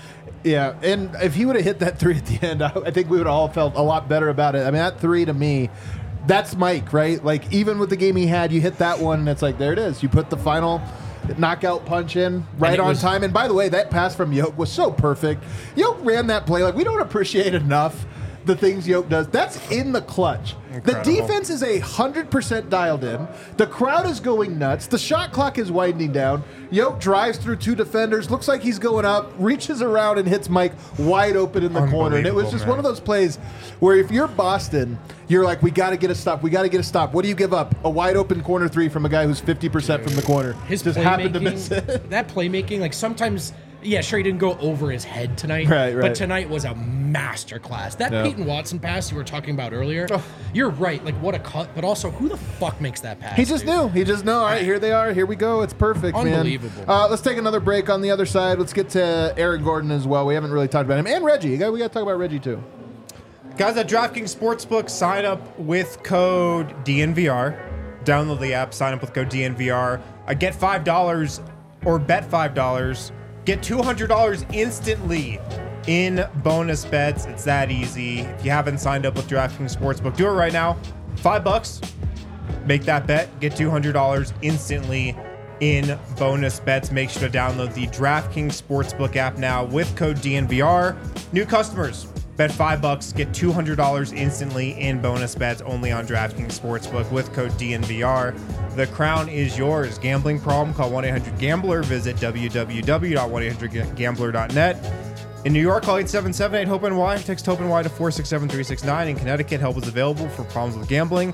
Yeah, and if he would have hit that three at the end, I I think we would have all felt a lot better about it. I mean, that three to me, that's Mike, right? Like, even with the game he had, you hit that one, and it's like, there it is. You put the final knockout punch in right it on was- time. And by the way, that pass from Yoke was so perfect. Yoke ran that play. Like, we don't appreciate enough the things Yoke does. That's in the clutch. Incredible. The defense is a hundred percent dialed in. The crowd is going nuts. The shot clock is winding down. Yoke drives through two defenders, looks like he's going up, reaches around and hits Mike wide open in the corner. And it was Unbelievable, just man. one of those plays where if you're Boston, you're like, we got to get a stop. We got to get a stop. What do you give up? A wide open corner three from a guy who's fifty percent from the corner. His just happened to miss playmaking, it. that playmaking, like sometimes, yeah, sure, he didn't go over his head tonight. Right, right. But tonight was a master class. That Yeah. Peyton Watson pass you were talking about earlier, you're right. Like, what a cut, but also, who the fuck makes that pass? He just dude? knew. He just knew. All right, here they are. Here we go. It's perfect, man. Unbelievable. Uh, let's take another break on the other side. Let's get to Aaron Gordon as well. We haven't really talked about him. And Reggie. We got to talk about Reggie, too. Guys, at DraftKings Sportsbook, sign up with code D N V R. Download the app, sign up with code D N V R. Uh, get five dollars or bet five dollars. Get two hundred dollars instantly in bonus bets. It's that easy. If you haven't signed up with DraftKings Sportsbook, do it right now. Five bucks. Make that bet. Get two hundred dollars instantly in bonus bets. Make sure to download the DraftKings Sportsbook app now with code D N V R. New customers, bet five bucks, get two hundred dollars instantly in bonus bets only on DraftKings Sportsbook with code D N V R. The crown is yours. Gambling problem? Call one eight hundred gambler. Visit w w w dot one eight hundred gambler dot net. In New York, call eight seven seven eight hope N Y. Text HOPE-N Y to four six seven three six nine. In Connecticut, help is available for problems with gambling.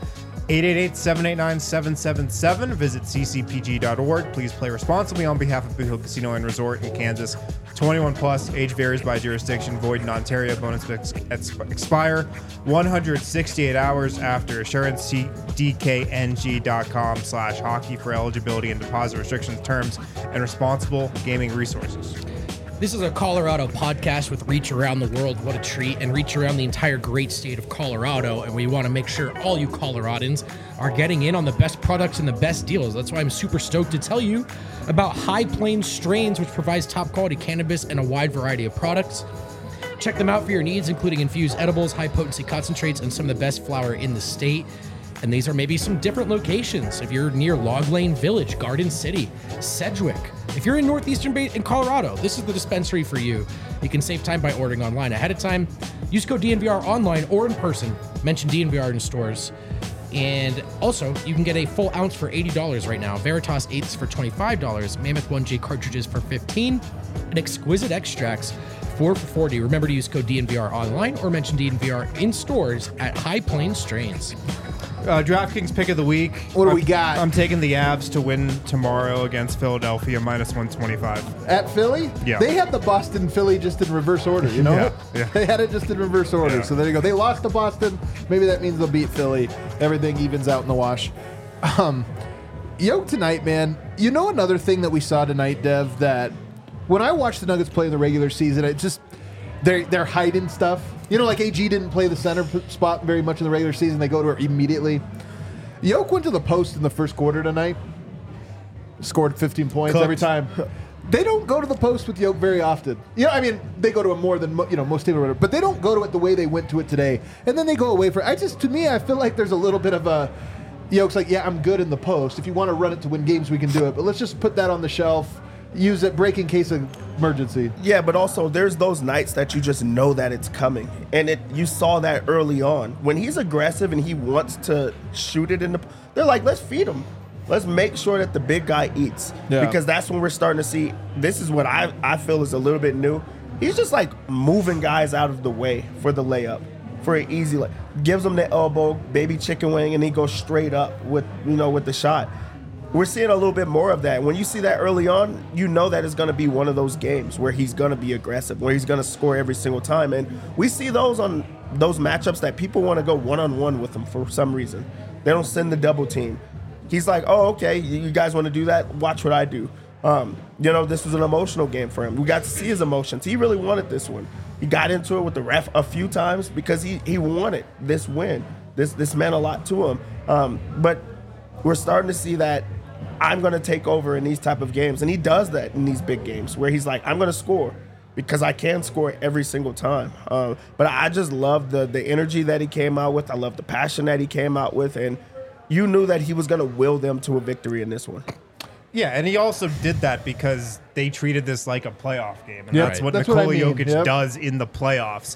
eight eight eight, seven eight nine, seven seven seven. Visit c c p g dot org. Please play responsibly on behalf of Boot Hill Casino and Resort in Kansas. twenty-one plus, age varies by jurisdiction, void in Ontario. Bonus ex- ex- expire one hundred sixty-eight hours after assurance. See d k n g dot com slash hockey for eligibility and deposit restrictions, terms, and responsible gaming resources. This is a Colorado podcast with Reach Around the World. What a treat. And reach around the entire great state of Colorado. And we want to make sure all you Coloradans are getting in on the best products and the best deals. That's why I'm super stoked to tell you about High Plains Strains, which provides top quality cannabis and a wide variety of products. Check them out for your needs, including infused edibles, high potency concentrates, and some of the best flower in the state. And these are maybe some different locations. If you're near Log Lane Village, Garden City, Sedgwick. If you're in Northeastern Bay in Colorado, this is the dispensary for you. You can save time by ordering online ahead of time. Use code D N V R online or in person. Mention D N V R in stores. And also, you can get a full ounce for eighty dollars right now. Veritas eighths for twenty-five dollars. Mammoth one J cartridges for fifteen dollars. And Exquisite Extracts four for forty dollars. Remember to use code D N V R online or mention D N V R in stores at High Plains Strains. Uh, DraftKings pick of the week. What do I'm, we got? I'm taking the Avs to win tomorrow against Philadelphia, minus one twenty-five. At Philly? Yeah. They had the Boston Philly just in reverse order, you know? Yeah, it? yeah. They had it just in reverse order. Yeah. So there you go. They lost to Boston. Maybe that means they'll beat Philly. Everything evens out in the wash. Um, Yoke tonight, man. You know another thing that we saw tonight, Dev, that when I watched the Nuggets play in the regular season, it just they're they're hiding stuff. You know, like A G didn't play the center p- spot very much in the regular season. They go to her immediately. Yoke went to the post in the first quarter tonight. Scored fifteen points Cooked. every time. They don't go to the post with Yoke very often. You know, I mean, they go to it more than mo- you know most teams, or whatever, but they don't go to it the way they went to it today. And then they go away for. I just, to me, I feel like there's a little bit of a. Yoke's like, yeah, I'm good in the post. If you want to run it to win games, we can do it. But let's just put that on the shelf. Use it, break in case of emergency. Yeah, but also there's those nights that you just know that it's coming, and it you saw that early on when he's aggressive and he wants to shoot it in the. They're like, let's feed him, let's make sure that the big guy eats, Yeah. because that's when we're starting to see. This is what I I feel is a little bit new. He's just like moving guys out of the way for the layup, for an easy like gives him the elbow, baby chicken wing, and he goes straight up with you know with the shot. We're seeing a little bit more of that. When you see that early on, you know that it's going to be one of those games where he's going to be aggressive, where he's going to score every single time. And we see those on those matchups that people want to go one-on-one with him for some reason. They don't send the double team. He's like, oh, okay, you guys want to do that? Watch what I do. Um, you know, this was an emotional game for him. We got to see his emotions. He really wanted this one. He got into it with the ref a few times because he, he wanted this win. This, this meant a lot to him. Um, but we're starting to see that I'm going to take over in these type of games. And he does that in these big games where he's like, I'm going to score because I can score every single time. Um, but I just love the the energy that he came out with. I love the passion that he came out with. And you knew that he was going to will them to a victory in this one. Yeah, and he also did that because they treated this like a playoff game. And Yep. that's what That's Nikola what I mean. Jokic Yep. does in the playoffs.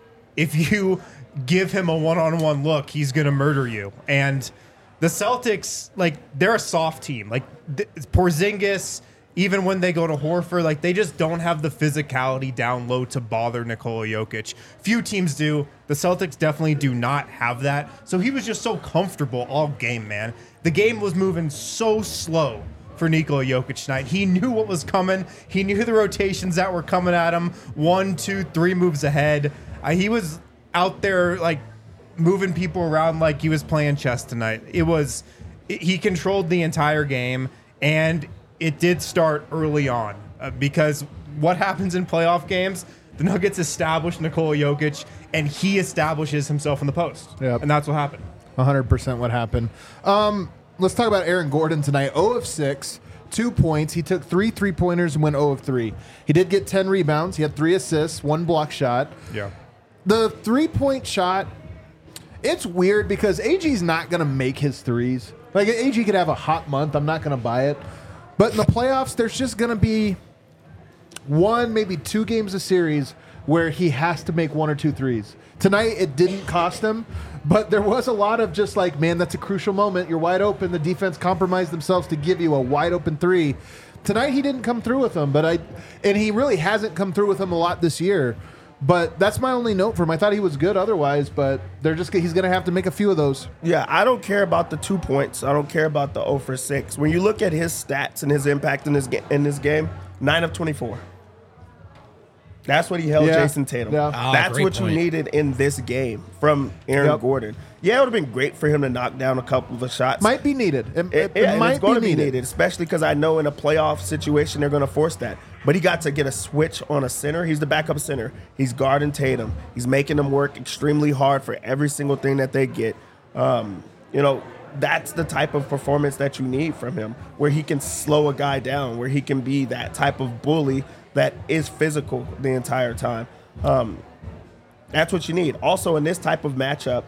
If you give him a one-on-one look, he's going to murder you. And the Celtics, like, they're a soft team. Like, th- Porzingis, even when they go to Horford, like, they just don't have the physicality down low to bother Nikola Jokic. Few teams do. The Celtics definitely do not have that. So he was just so comfortable all game, man. The game was moving so slow for Nikola Jokic tonight. He knew what was coming. He knew the rotations that were coming at him. One, two, three moves ahead. Uh, he was out there, like, moving people around like he was playing chess tonight. It was, it, he controlled the entire game, and it did start early on uh, because what happens in playoff games, the Nuggets establish Nikola Jokic, and he establishes himself in the post. Yep. And that's what happened. one hundred percent what happened. Um, let's talk about Aaron Gordon tonight. zero of six, two points. He took three three-pointers and went zero of three. He did get ten rebounds. He had three assists, one block shot. Yeah. The three-point shot, it's weird because A G's not going to make his threes. Like, A G could have a hot month. I'm not going to buy it. But in the playoffs, there's just going to be one, maybe two games a series where he has to make one or two threes. Tonight, it didn't cost him, but there was a lot of just like, man, that's a crucial moment. You're wide open. The defense compromised themselves to give you a wide open three. Tonight, he didn't come through with them, but I, and he really hasn't come through with them a lot this year. But that's my only note for him. I thought he was good otherwise, but they're just he's going to have to make a few of those. Yeah, I don't care about the two points. I don't care about the zero for six. When you look at his stats and his impact in this ga- in this game, nine of twenty-four. That's what he held Yeah. Jason Tatum. Yeah. Ah, That's great what point. you needed in this game from Aaron Yep. Gordon. Yeah, it would have been great for him to knock down a couple of shots. Might be needed. It, It, it- it yeah, and might it's going be to be needed. needed, especially because I know in a playoff situation they're going to force that. But he got to get a switch on a center. He's the backup center. He's guarding Tatum. He's making them work extremely hard for every single thing that they get. Um, you know, that's the type of performance that you need from him, where he can slow a guy down, where he can be that type of bully that is physical the entire time. Um, that's what you need. Also, in this type of matchup,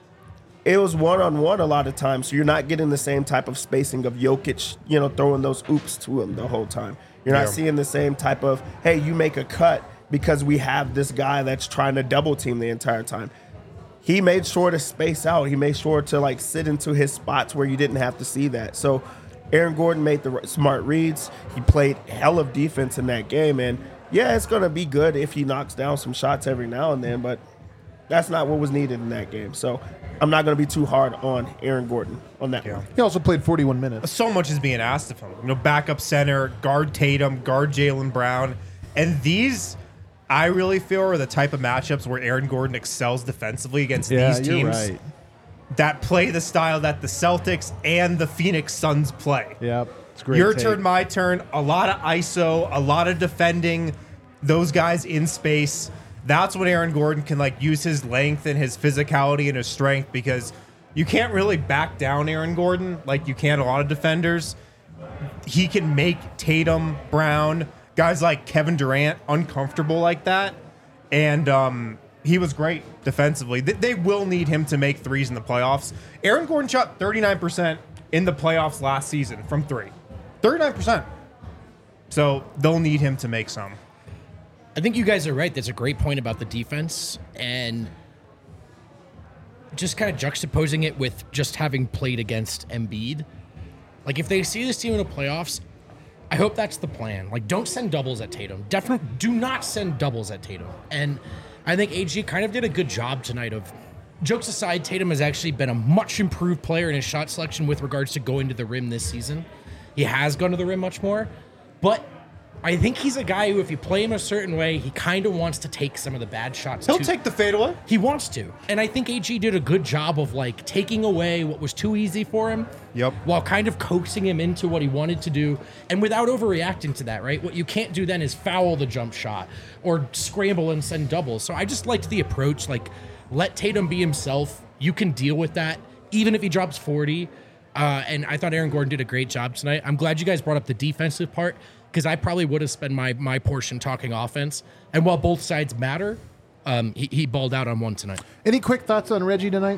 it was one-on-one a lot of times, so you're not getting the same type of spacing of Jokic, you know, throwing those oops to him the whole time. You're not Yeah. seeing the same type of, hey, you make a cut because we have this guy that's trying to double team the entire time. He made sure to space out. He made sure to, like, sit into his spots where you didn't have to see that. So Aaron Gordon made the r- smart reads. He played hell of defense in that game. And, yeah, it's going to be good if he knocks down some shots every now and then, but that's not what was needed in that game. So I'm not going to be too hard on Aaron Gordon on that Yeah. one. He also played forty-one minutes. So much is being asked of him. You know, backup center, guard Tatum, guard Jaylen Brown. And these, I really feel, are the type of matchups where Aaron Gordon excels defensively against these teams that play the style that the Celtics and the Phoenix Suns play. Yep. It's great. Your take. turn, my turn. A lot of I S O, a lot of defending those guys in space. That's when Aaron Gordon can like use his length and his physicality and his strength, because you can't really back down Aaron Gordon like you can a lot of defenders. He can make Tatum, Brown, guys like Kevin Durant uncomfortable like that. And um, he was great defensively. They, they will need him to make threes in the playoffs. Aaron Gordon shot thirty-nine percent in the playoffs last season from three. thirty-nine percent. So they'll need him to make some. I think you guys are right. That's a great point about the defense, and just kind of juxtaposing it with just having played against Embiid. Like, if they see this team in the playoffs, I hope that's the plan. Like, don't send doubles at Tatum. Definitely do not send doubles at Tatum. And I think A G kind of did a good job tonight of, jokes aside, Tatum has actually been a much improved player in his shot selection with regards to going to the rim this season. He has gone to the rim much more, but I think he's a guy who, if you play him a certain way, he kind of wants to take some of the bad shots. He'll too. take the fadeaway. He wants to. And I think A G did a good job of like taking away what was too easy for him. Yep. While kind of coaxing him into what he wanted to do, and without overreacting to that, right? What you can't do then is foul the jump shot or scramble and send doubles. So I just liked the approach, like, let Tatum be himself. You can deal with that, even if he drops forty. Uh, and I thought Aaron Gordon did a great job tonight. I'm glad you guys brought up the defensive part, because I probably would have spent my my portion talking offense. And while both sides matter, um, he, he balled out on one tonight. Any quick thoughts on Reggie tonight?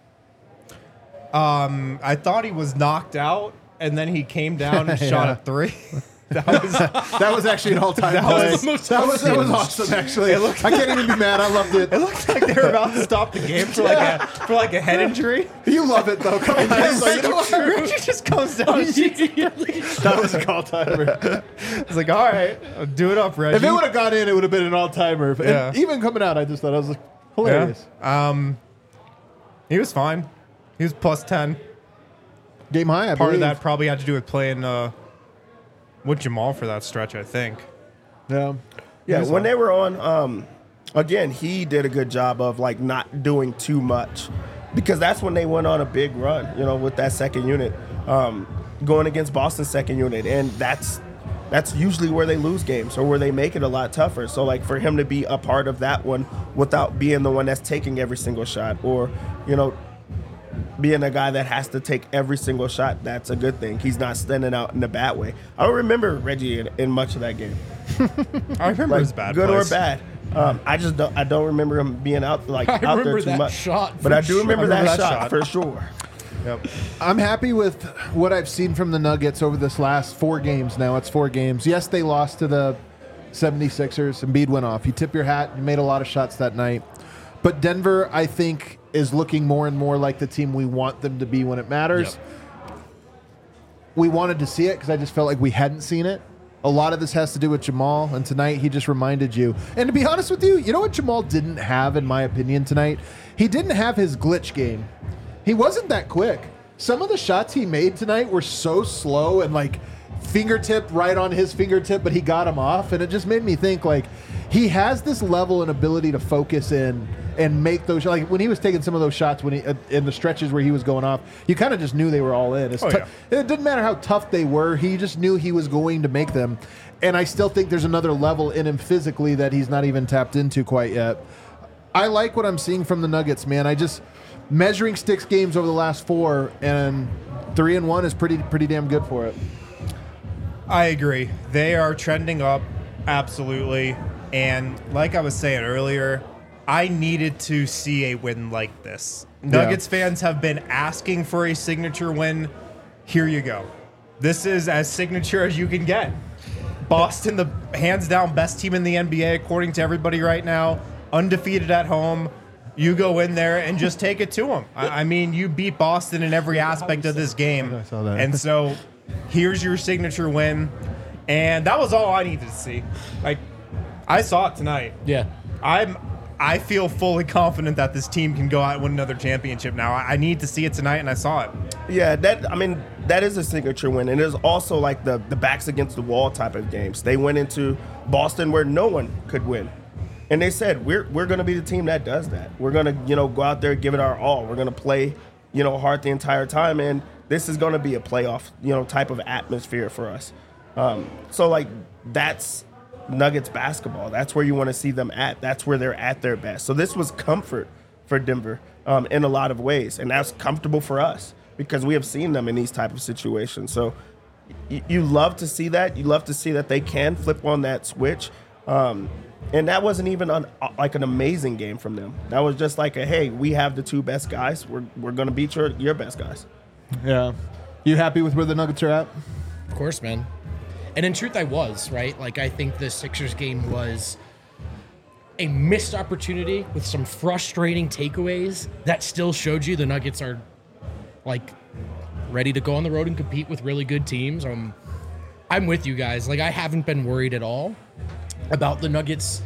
I thought he was knocked out, and then he came down and shot Yeah. a three. That was That was actually an all-time play. was the most that was that was awesome. Actually, I can't even be mad. I loved it. It looked like they were about to stop the game for like a for like a head injury. You love it though. Come on, Reggie just comes down. And shoots. that was a all-timer. It's like, all right, do it up, Reggie. If it would have gone in, it would have been an all-timer. And Yeah. even coming out, I just thought I was like, hilarious. Yeah. Um, he was fine. He was plus ten. Game high, I Part believe. of that probably had to do with playing uh, with Jamal for that stretch, I think. Yeah. Yeah, when they were on, um, again, he did a good job of like not doing too much, because that's when they went on a big run, you know, with that second unit, um, going against Boston's second unit, and that's that's usually where they lose games or where they make it a lot tougher. So like for him to be a part of that one without being the one that's taking every single shot, or you know, being a guy that has to take every single shot, that's a good thing. He's not standing out in a bad way. I don't remember Reggie in, in much of that game. I remember Like, his bad good plays. or bad. Um, I just don't. I don't remember him being out like I out there remember too that much. shot but for I do sure. remember, I remember that, that shot, shot. for sure. Yep. I'm happy with what I've seen from the Nuggets over this last four games now. It's four games. Yes, they lost to the seventy-sixers. Embiid went off. You tip your hat. You made a lot of shots that night. But Denver, I think, is looking more and more like the team we want them to be when it matters. Yep. We wanted to see it because I just felt like we hadn't seen it. A lot of this has to do with Jamal, and tonight he just reminded you. And to be honest with you, you know what Jamal didn't have, in my opinion, tonight? He didn't have his glitch game. He wasn't that quick. Some of the shots he made tonight were so slow and like fingertip right on his fingertip, but he got him off, and it just made me think like he has this level and ability to focus in and make those, like when he was taking some of those shots when he uh, in the stretches where he was going off, you kind of just knew they were all in. It's Oh, t- yeah. It didn't matter how tough they were, he just knew he was going to make them. And I still think there's another level in him physically that he's not even tapped into quite yet. I like what I'm seeing from the Nuggets, man. I just measuring sticks games over the last four, and three and one is pretty pretty damn good for it. I agree. They are trending up, absolutely. And like I was saying earlier, I needed to see a win like this. Nuggets fans have been asking for a signature win. Here you go. This is as signature as you can get. Boston, the hands down best team in the N B A, according to everybody right now, undefeated at home. You go in there and just take it to them. I, I mean, you beat Boston in every aspect of this game. I saw that. And so here's your signature win. And that was all I needed to see. Like, I saw it tonight. Yeah. I'm I feel fully confident that this team can go out and win another championship now. I, I need to see it tonight, and I saw it. Yeah, that I mean that is a signature win, and it is also like the the backs against the wall type of games. They went into Boston where no one could win, and they said we're we're going to be the team that does that. We're going to you know go out there, give it our all. We're going to play you know hard the entire time, and this is going to be a playoff you know type of atmosphere for us. Um, so like that's Nuggets basketball. That's where you want to see them at. That's where they're at their best. So this was comfort for Denver um, in a lot of ways, and that's comfortable for us because we have seen them in these type of situations. So y- you love to see that. You love to see that they can flip on that switch. Um, and that wasn't even an, like an amazing game from them. That was just like a, hey, we have the two best guys. We're we're gonna beat your your best guys. Yeah. You happy with where the Nuggets are at? Of course, man. And in truth, I was, right? Like, I think the Sixers game was a missed opportunity with some frustrating takeaways that still showed you the Nuggets are, like, ready to go on the road and compete with really good teams. Um, I'm with you guys. Like, I haven't been worried at all about the Nuggets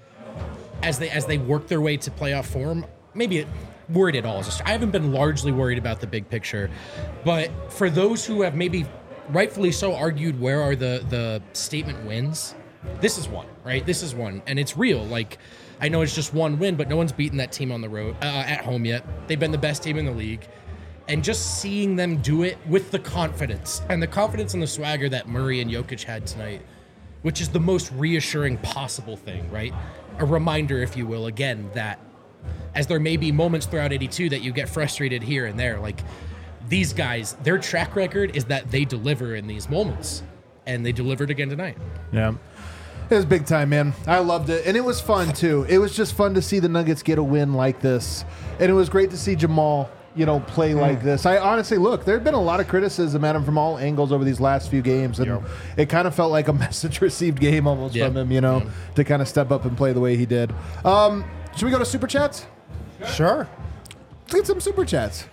as they as they work their way to playoff form. Maybe it, worried at all. It's just, I haven't been largely worried about the big picture. But for those who have maybe rightfully so argued where are the the statement wins, this is one, right? This is one, and it's real. Like, I know it's just one win, but no one's beaten that team on the road uh, at home yet. They've been the best team in the league, and just seeing them do it with the confidence and the confidence and the swagger that Murray and Jokic had tonight, which is the most reassuring possible thing, right? A reminder, if you will, again, that as there may be moments throughout eighty-two that you get frustrated here and there, like, these guys, their track record is that they deliver in these moments, and they delivered again tonight. Yeah. It was big time, man. I loved it. And it was fun, too. It was just fun to see the Nuggets get a win like this. And it was great to see Jamal, you know, play like this. I honestly, look, there had been a lot of criticism at him from all angles over these last few games. And Yep. it kind of felt like a message received game almost Yep. from him, you know, Yep. to kind of step up and play the way he did. Um, should we go to Super Chats? Sure. Let's get some Super Chats.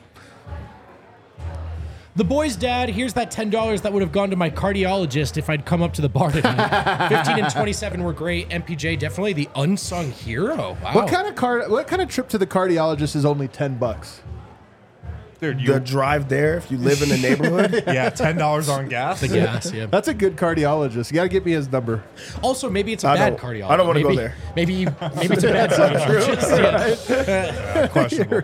The boy's dad, here's that ten dollars that would have gone to my cardiologist if I'd come up to the bar tonight. fifteen and twenty-seven were great. M P J, definitely the unsung hero. Wow. What kind of car? What kind of trip to the cardiologist is only ten bucks? Dude, you, The drive there, if you live in the neighborhood, yeah, ten dollars on gas. The gas, yeah. That's a good cardiologist. You got to get me his number. Also, maybe it's a I bad don't- cardiologist. I don't wanna go Maybe- there. Maybe you, maybe it's a bad cardiologist. Yeah. Questionable.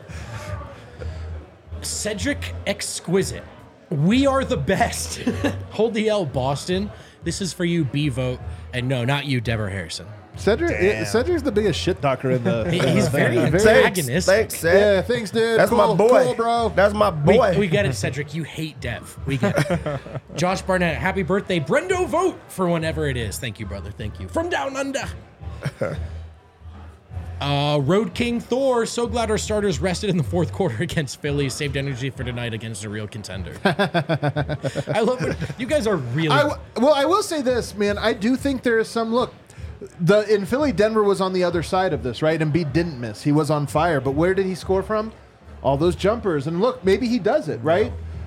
Cedric Exquisite. We are the best. Hold the L, Boston. This is for you, B vote. And no, not you, Deborah Harrison. Cedric, Damn. Cedric's the biggest shit talker in the. He- he's very thanks, antagonistic. thanks, Seth. Yeah, thanks, dude. That's cool, my boy, cool, bro. That's my We, boy. we get it, Cedric. You hate Dev. We get it. Josh Barnett, happy birthday. Brendo vote for whenever it is. Thank you, brother. Thank you. From down under. Uh, Road King Thor, so glad our starters rested in the fourth quarter against Philly, saved energy for tonight against a real contender. I love it. You guys are really. I w- well, I will say this, man. I do think there is some look. The in Philly, Denver was on the other side of this, right? Embiid didn't miss; he was on fire. But where did he score from? All those jumpers. And look, maybe he does it, right?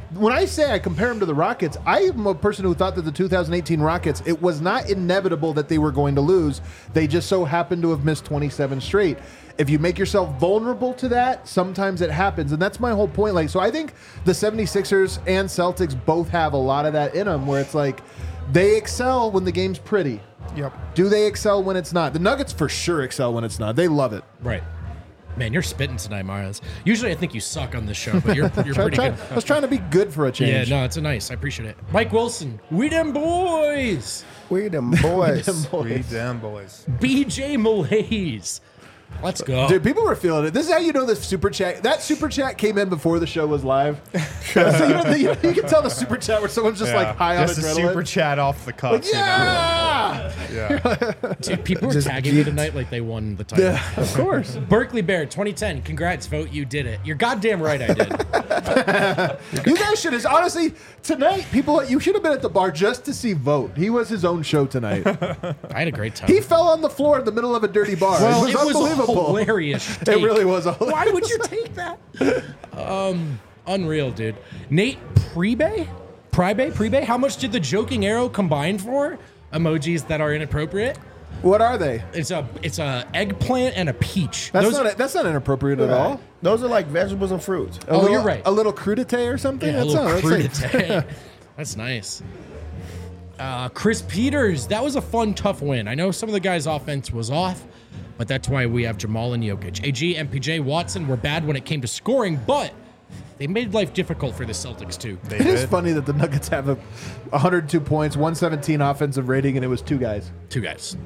when I say I compare them to the Rockets, I am a person who thought that the two thousand eighteen Rockets, it was not inevitable that they were going to lose. They just so happened to have missed twenty-seven straight. If you make yourself vulnerable to that, sometimes it happens. And that's my whole point. Like, so I think the seventy-sixers and Celtics both have a lot of that in them where it's like they excel when the game's pretty. Yep. Do they excel when it's not? The Nuggets for sure excel when it's not. They love it. Right. Man, you're spitting tonight, Miles. Usually I think you suck on this show, but you're, you're Try- pretty try- good. I was trying to be good for a Yeah, change. no, it's a nice. I appreciate it. Mike Wilson, we them boys. We them boys. We damn boys. B J Malaise. Let's go. Dude, people were feeling it. This is how you know the super chat. That super chat came in before the show was live. so you, know, the, you, you can tell the super chat where someone's just like high on Just a adrenaline. super chat off the cuff. Like, you know? yeah! Yeah. Dude, people were Just tagging me geeked. tonight like they won the title. Yeah, of course. Berkeley Bear, twenty ten. Congrats, vote. You did it. You're goddamn right, I did. You guys should have, honestly, tonight, people, you should have been at the bar just to see Vote. He was his own show tonight. I had a great time. He fell on the floor in the middle of a dirty bar. well, it was unbelievable. hilarious. It take. really was. A Why would you take that? Um, unreal, dude. Nate Prebe? Pribe? Prebe? How much did the joking arrow combine for? Emojis that are inappropriate. What are they? It's a it's a eggplant and a peach. That's Those- not that's not inappropriate at all. Those are like vegetables and fruits. A Oh, little, you're right. A little crudité or something? Yeah, a That's little not- that's like- crudité. That's nice. Uh, Chris Peters, that was a fun, tough win. I know some of the guys' offense was off, but that's why we have Jamal and Jokic. A G, M P J, Watson were bad when it came to scoring, but they made life difficult for the Celtics too. They It is did. funny that the Nuggets have a one hundred two points, one seventeen offensive rating, and it was two guys. Two guys.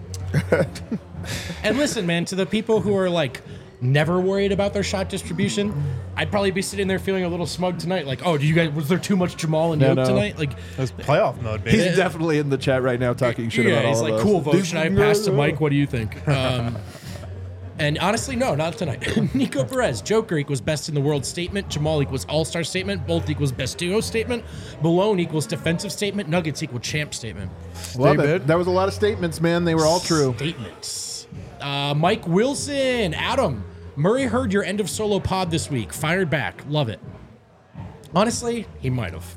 And listen, man, to the people who are like never worried about their shot distribution, I'd probably be sitting there feeling a little smug tonight. Like, oh, do you guys, was there too much Jamal and No, Jokic no. tonight? Like, That's playoff mode, baby. He's definitely in the chat right now talking shit yeah, about all he's of like, us. cool, vote. Should I pass to Mike? What do you think? Um, and honestly, no, not tonight. Nico Perez, Joker equals best in the world statement. Jamal equals all-star statement. Both equals best duo statement. Malone equals defensive statement. Nuggets equal champ statement. Love Stay it. mid. That was a lot of statements, man. They were all true. Statements. Uh, Mike Wilson, Adam. Murray heard your end of solo pod this week. Fired back. Love it. Honestly, he might have.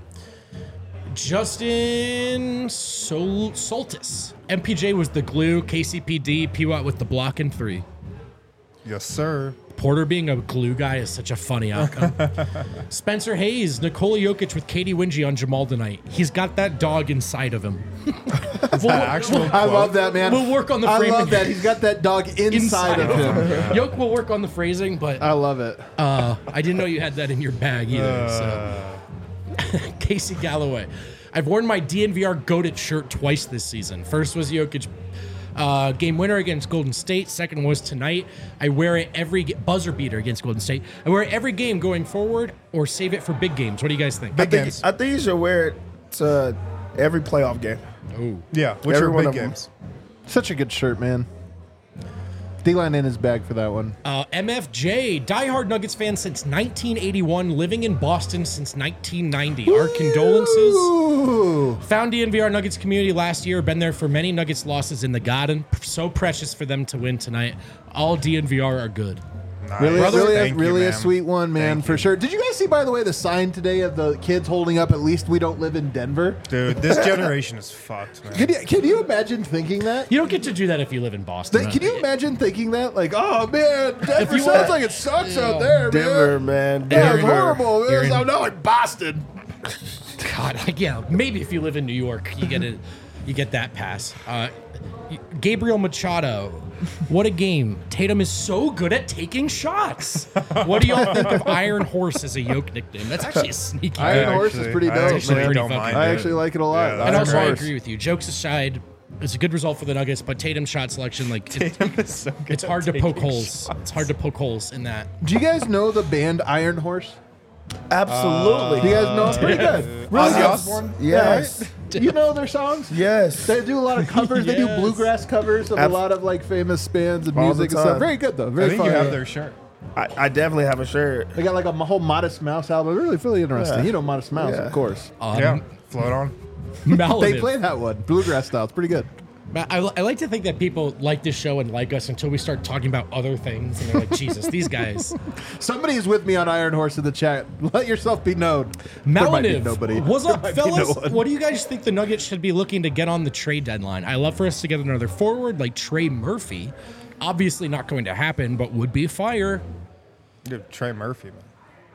Justin Sol- Soltis. M P J was the glue. K C P D. P-Watt with the block and three. Yes, sir. Porter being a glue guy is such a funny outcome. Spencer Hayes, Nikola Jokic with Katie Wingy on Jamal tonight. He's got that dog inside of him. we'll, actual we'll- I love that, man. We'll work on the I framing. love that. He's got that dog inside, inside of him. Yoke will work on the phrasing, but I love it. uh, I didn't know you had that in your bag either. So. Casey Galloway. I've worn my D N V R Goated shirt twice this season. First was Jokic uh, game winner against Golden State. Second was tonight. I wear it every ge- buzzer beater against Golden State. I wear it every game going forward or save it for big games. What do you guys think? I Big think, games. I think you should wear it to every playoff game. Oh, Yeah, which Every are one big of them. games. Such a good shirt, man. D-line in his bag for that one. Uh, M F J, diehard Nuggets fan since nineteen eighty-one, living in Boston since nineteen ninety. Our condolences. Ooh. Found D N V R Nuggets community last year. Been there for many Nuggets losses in the Garden. So precious for them to win tonight. All D N V R are good. Nice. Really, Brother, really, a, Thank you, really a man. sweet one, man, Thank for you. sure. Did you guys see, by the way, the sign today of the kids holding up, at least we don't live in Denver? Dude, this generation is fucked, man. Can you, can you imagine thinking that? You don't get to do that if you live in Boston. Th- Can you imagine thinking that? Like, oh, man, Denver you sounds were- like it sucks Yeah. out there, Denver, man. man. Yeah, Denver. it's horrible. Man. You're in- I'm not like Boston. God, like, yeah, maybe if you live in New York, you get it, you get that pass. Uh, Gabriel Machado, what a game! Tatum is so good at taking shots. What do y'all think of Iron Horse as a Yoke nickname? That's actually a sneaky. Iron one. Horse is pretty I dope, actually man. don't Pretty mind I it. actually like it a lot. Yeah, And Iron also, I Horse. agree with you. Jokes aside, it's a good result for the Nuggets, but Tatum's shot selection, like, it, So good it's at hard to poke taking holes. It's hard to poke holes in that. Do you guys know the band Iron Horse? Absolutely. Do you guys know? It's pretty good. Really Ozzy good. Osbourne? yes. Yeah, right? You know their songs? Yes. They do a lot of covers. They do Yes. bluegrass covers of Ab- a lot of like famous bands and All the music and stuff. time. Very good though. I Very think fun. you have their shirt. I, I definitely have a shirt. They got like a m- whole Modest Mouse album. Really, really interesting. Yeah. You know Modest Mouse, Yeah. of course. Um, yeah, float on. They Malative. play that one bluegrass style. It's pretty good. I, I like to think that people like this show and like us until we start talking about other things, and they're like, Jesus, these guys. Somebody's with me on Iron Horse in the chat. Let yourself be known. There might be Maliniv, nobody. what's up, There might be no fellas? one. What do you guys think the Nuggets should be looking to get on the trade deadline? I love for us to get another forward like Trey Murphy. Obviously not going to happen, but would be fire. Dude, Trey Murphy, man.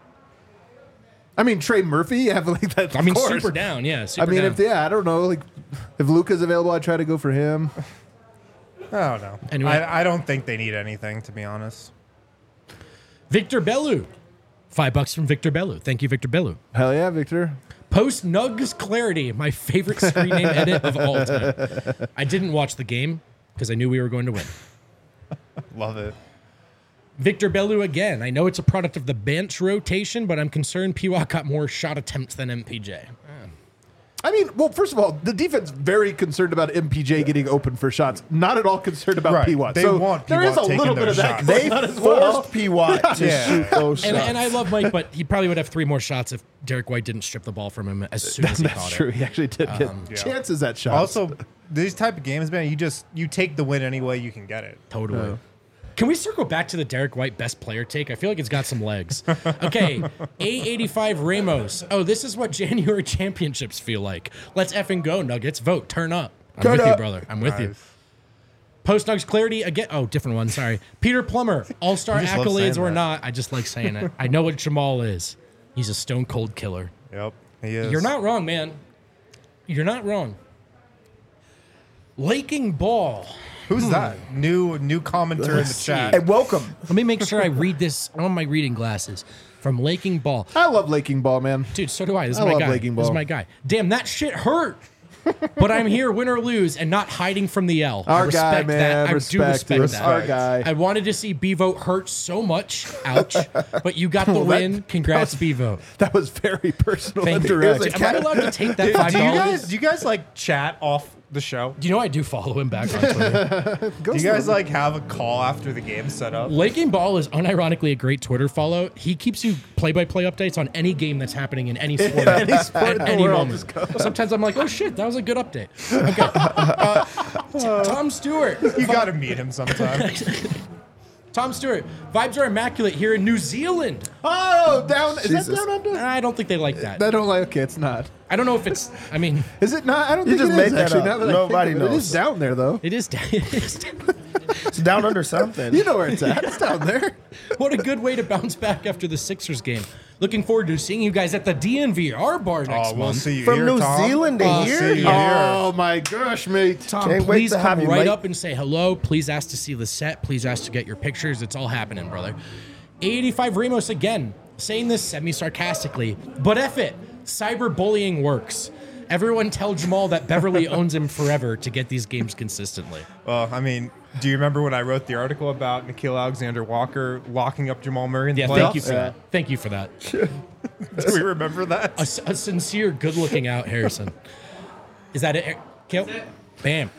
I mean, Trey Murphy. Have like that. I mean, of course. super down, yeah. I Super mean, down. if yeah, I don't know. Like, if Luka's available, I'd try to go for him. I don't know. Anyway. I, I don't think they need anything, to be honest. Victor Bellu. Five bucks from Victor Bellu. Thank you, Victor Bellu. Hell yeah, Victor. Post Nugs Clarity, my favorite screen name edit of all time. I didn't watch the game because I knew we were going to win. Love it. Victor Bellu again. I know it's a product of the bench rotation, but I'm concerned P W A got more shot attempts than M P J. I mean, well, first of all, the defense very concerned about M P J getting open for shots. Not at all concerned about Right. P W A. They so want there is a P W A little taking bit of those that shots. going They on as well. forced P. Watt to Yeah. shoot those And, shots. and I love Mike, but he probably would have three more shots if Derek White didn't strip the ball from him as soon as he That's caught true. it. He actually did get Um, yeah. chances at shots. Also, these type of games, man, you just you take the win any way you can get it. Totally. Can we circle back to the Derek White best player take? I feel like it's got some legs. Okay, A eighty-five Ramos. Oh, this is what January championships feel like. Let's effing go, Nuggets. Vote. Turn up. I'm Turn with you, up. brother. I'm with you. Nice. Post Nugs Clarity again. Oh, different one. Sorry. Peter Plummer. All-star You just love accolades saying or that. not. I just like saying it. I know what Jamal is. He's a stone cold killer. Yep, he is. You're not wrong, man. You're not wrong. Laking Ball. Who's that? New new commenter in the chat. Hey, welcome. Let me make sure I read this on my reading glasses. From Laking Ball. I love Laking Ball, man. Dude, so do I. This is I my love guy. Laking This is Ball. my guy. Damn, that shit hurt. But I'm here, win or lose, and not hiding from the L. I Our guy, respect man. that. I respect, do respect it. that. Our guy. I wanted to see B-Vote hurt so much. Ouch. But you got the Well, that- win. Congrats, B-Vote. That was very personal Thank and you. direct. Am I allowed to take that Do five you dollars? guys do you guys like chat off the show? Do you know I do follow him back on Twitter? Go Do you guys slow. like have a call after the game set up? Laking Ball is unironically a great Twitter follow. He keeps you play-by-play updates on any game that's happening in any sport, Any sport in at the any world. moment. Just go. Sometimes I'm like, oh shit, that was a good update. Okay. Uh, T- Tom Stewart. You got to meet him sometime. Tom Stewart. Vibes are immaculate here in New Zealand. Oh, down. Is Jesus. that down under? I don't think they like that. I don't like. Okay, it's not. I don't know if it's. I mean, Is it not? I don't You think just it made is, that actually. up. Now that I Nobody think of it. It knows. is down there, though. it is. It is. It's down under something. You know where it's at. It's down there. What a good way to bounce back after the Sixers game. Looking forward to seeing you guys at the D N V R bar next Oh, we'll month. see you From here, New Tom. Zealand to Uh, here? see you Oh, here. Oh my gosh, mate. Tom, Can't wait please to come have you, right mate. up and say hello. Please ask to see the set. Please ask to get your pictures. It's all happening, brother. A eighty-five Ramos again, saying this semi-sarcastically, but F it. Cyberbullying works. Everyone tell Jamal that Beverly owns him forever to get these games consistently. Well, I mean, do you remember when I wrote the article about Nikhil Alexander-Walker locking up Jamal Murray in the Yeah, playoffs? thank you for that. Thank you for that. Do we remember that? A, s- a sincere, good-looking out Harrison. Is that it, Kale? Bam.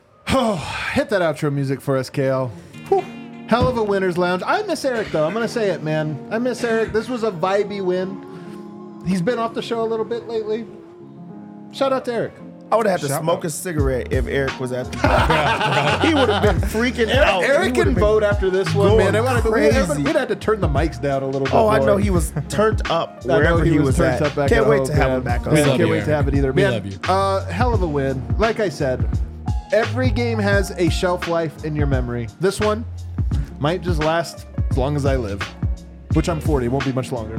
Hit that outro music for us, Kale. Whew. Hell of a winner's lounge. I miss Eric, though. I'm going to say it, man. I miss Eric. This was a vibey win. He's been off the show a little bit lately. Shout out to Eric. I would have had to Shout smoke out. a cigarette if Eric was at the He would have been freaking out. He Eric would've can been- vote after this one, going man. It would've been- we'd, crazy. we'd have to turn the mics down a little bit Oh, more. I know he was turned up I know wherever he, was, turned at. up back Can't at wait home, to have man. him back on. We Man, love can't you, wait to Eric. have it either. We Man, love you. Uh, hell of a win. Like I said, every game has a shelf life in your memory. This one might just last as long as I live, which I'm forty. It won't be much longer.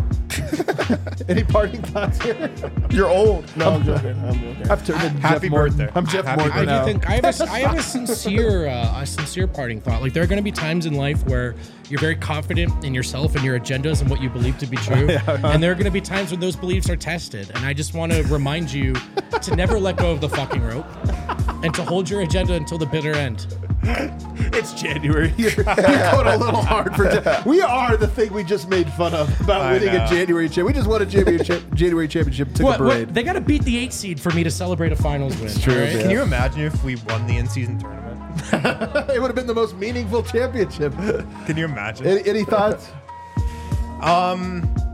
Any parting thoughts here? You're old. No, I'm joking. I'm joking. I've turned into Happy Jeff Morton. birthday. I'm Jeff Happy Morton I now. do think I have a, I have a sincere, uh, a sincere parting thought. Like there are going to be times in life where you're very confident in yourself and your agendas and what you believe to be true, and there are going to be times when those beliefs are tested. And I just want to remind you to never let go of the fucking rope and to hold your agenda until the bitter end. It's January. You're, you're going a little hard for. Ja- we are the thing we just made fun of about I winning a know. January championship. We just won a January, cha- January championship. Took What, a what? parade. They got to beat the eight seed for me to celebrate a finals win. true, all right? man. Can you imagine if we won the in-season tournament? It would have been the most meaningful championship. Can you imagine? Any, any thoughts?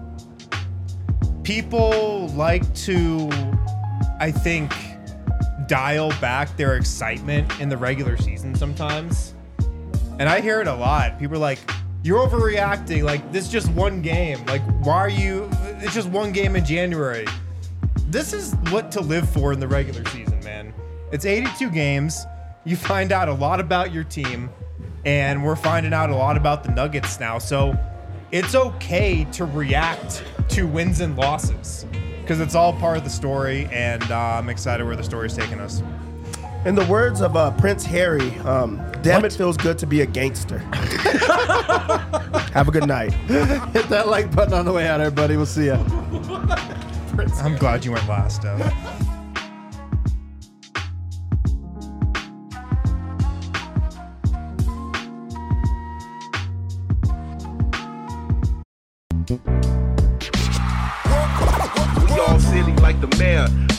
People like to, I think, dial back their excitement in the regular season sometimes. And I hear it a lot. People are like, you're overreacting. Like, this is just one game. Like, why are you... It's just one game in January. This is what to live for in the regular season, man. It's eighty-two games. You find out a lot about your team, and we're finding out a lot about the Nuggets now. So it's okay to react to wins and losses because it's all part of the story, and uh, I'm excited where the story's taking us. In the words of uh, Prince Harry, um, damn What? it feels good to be a gangster. Have a good night. Hit that like button on the way out, everybody. We'll see ya. I'm glad you went last, Dev. We all silly like the mayor.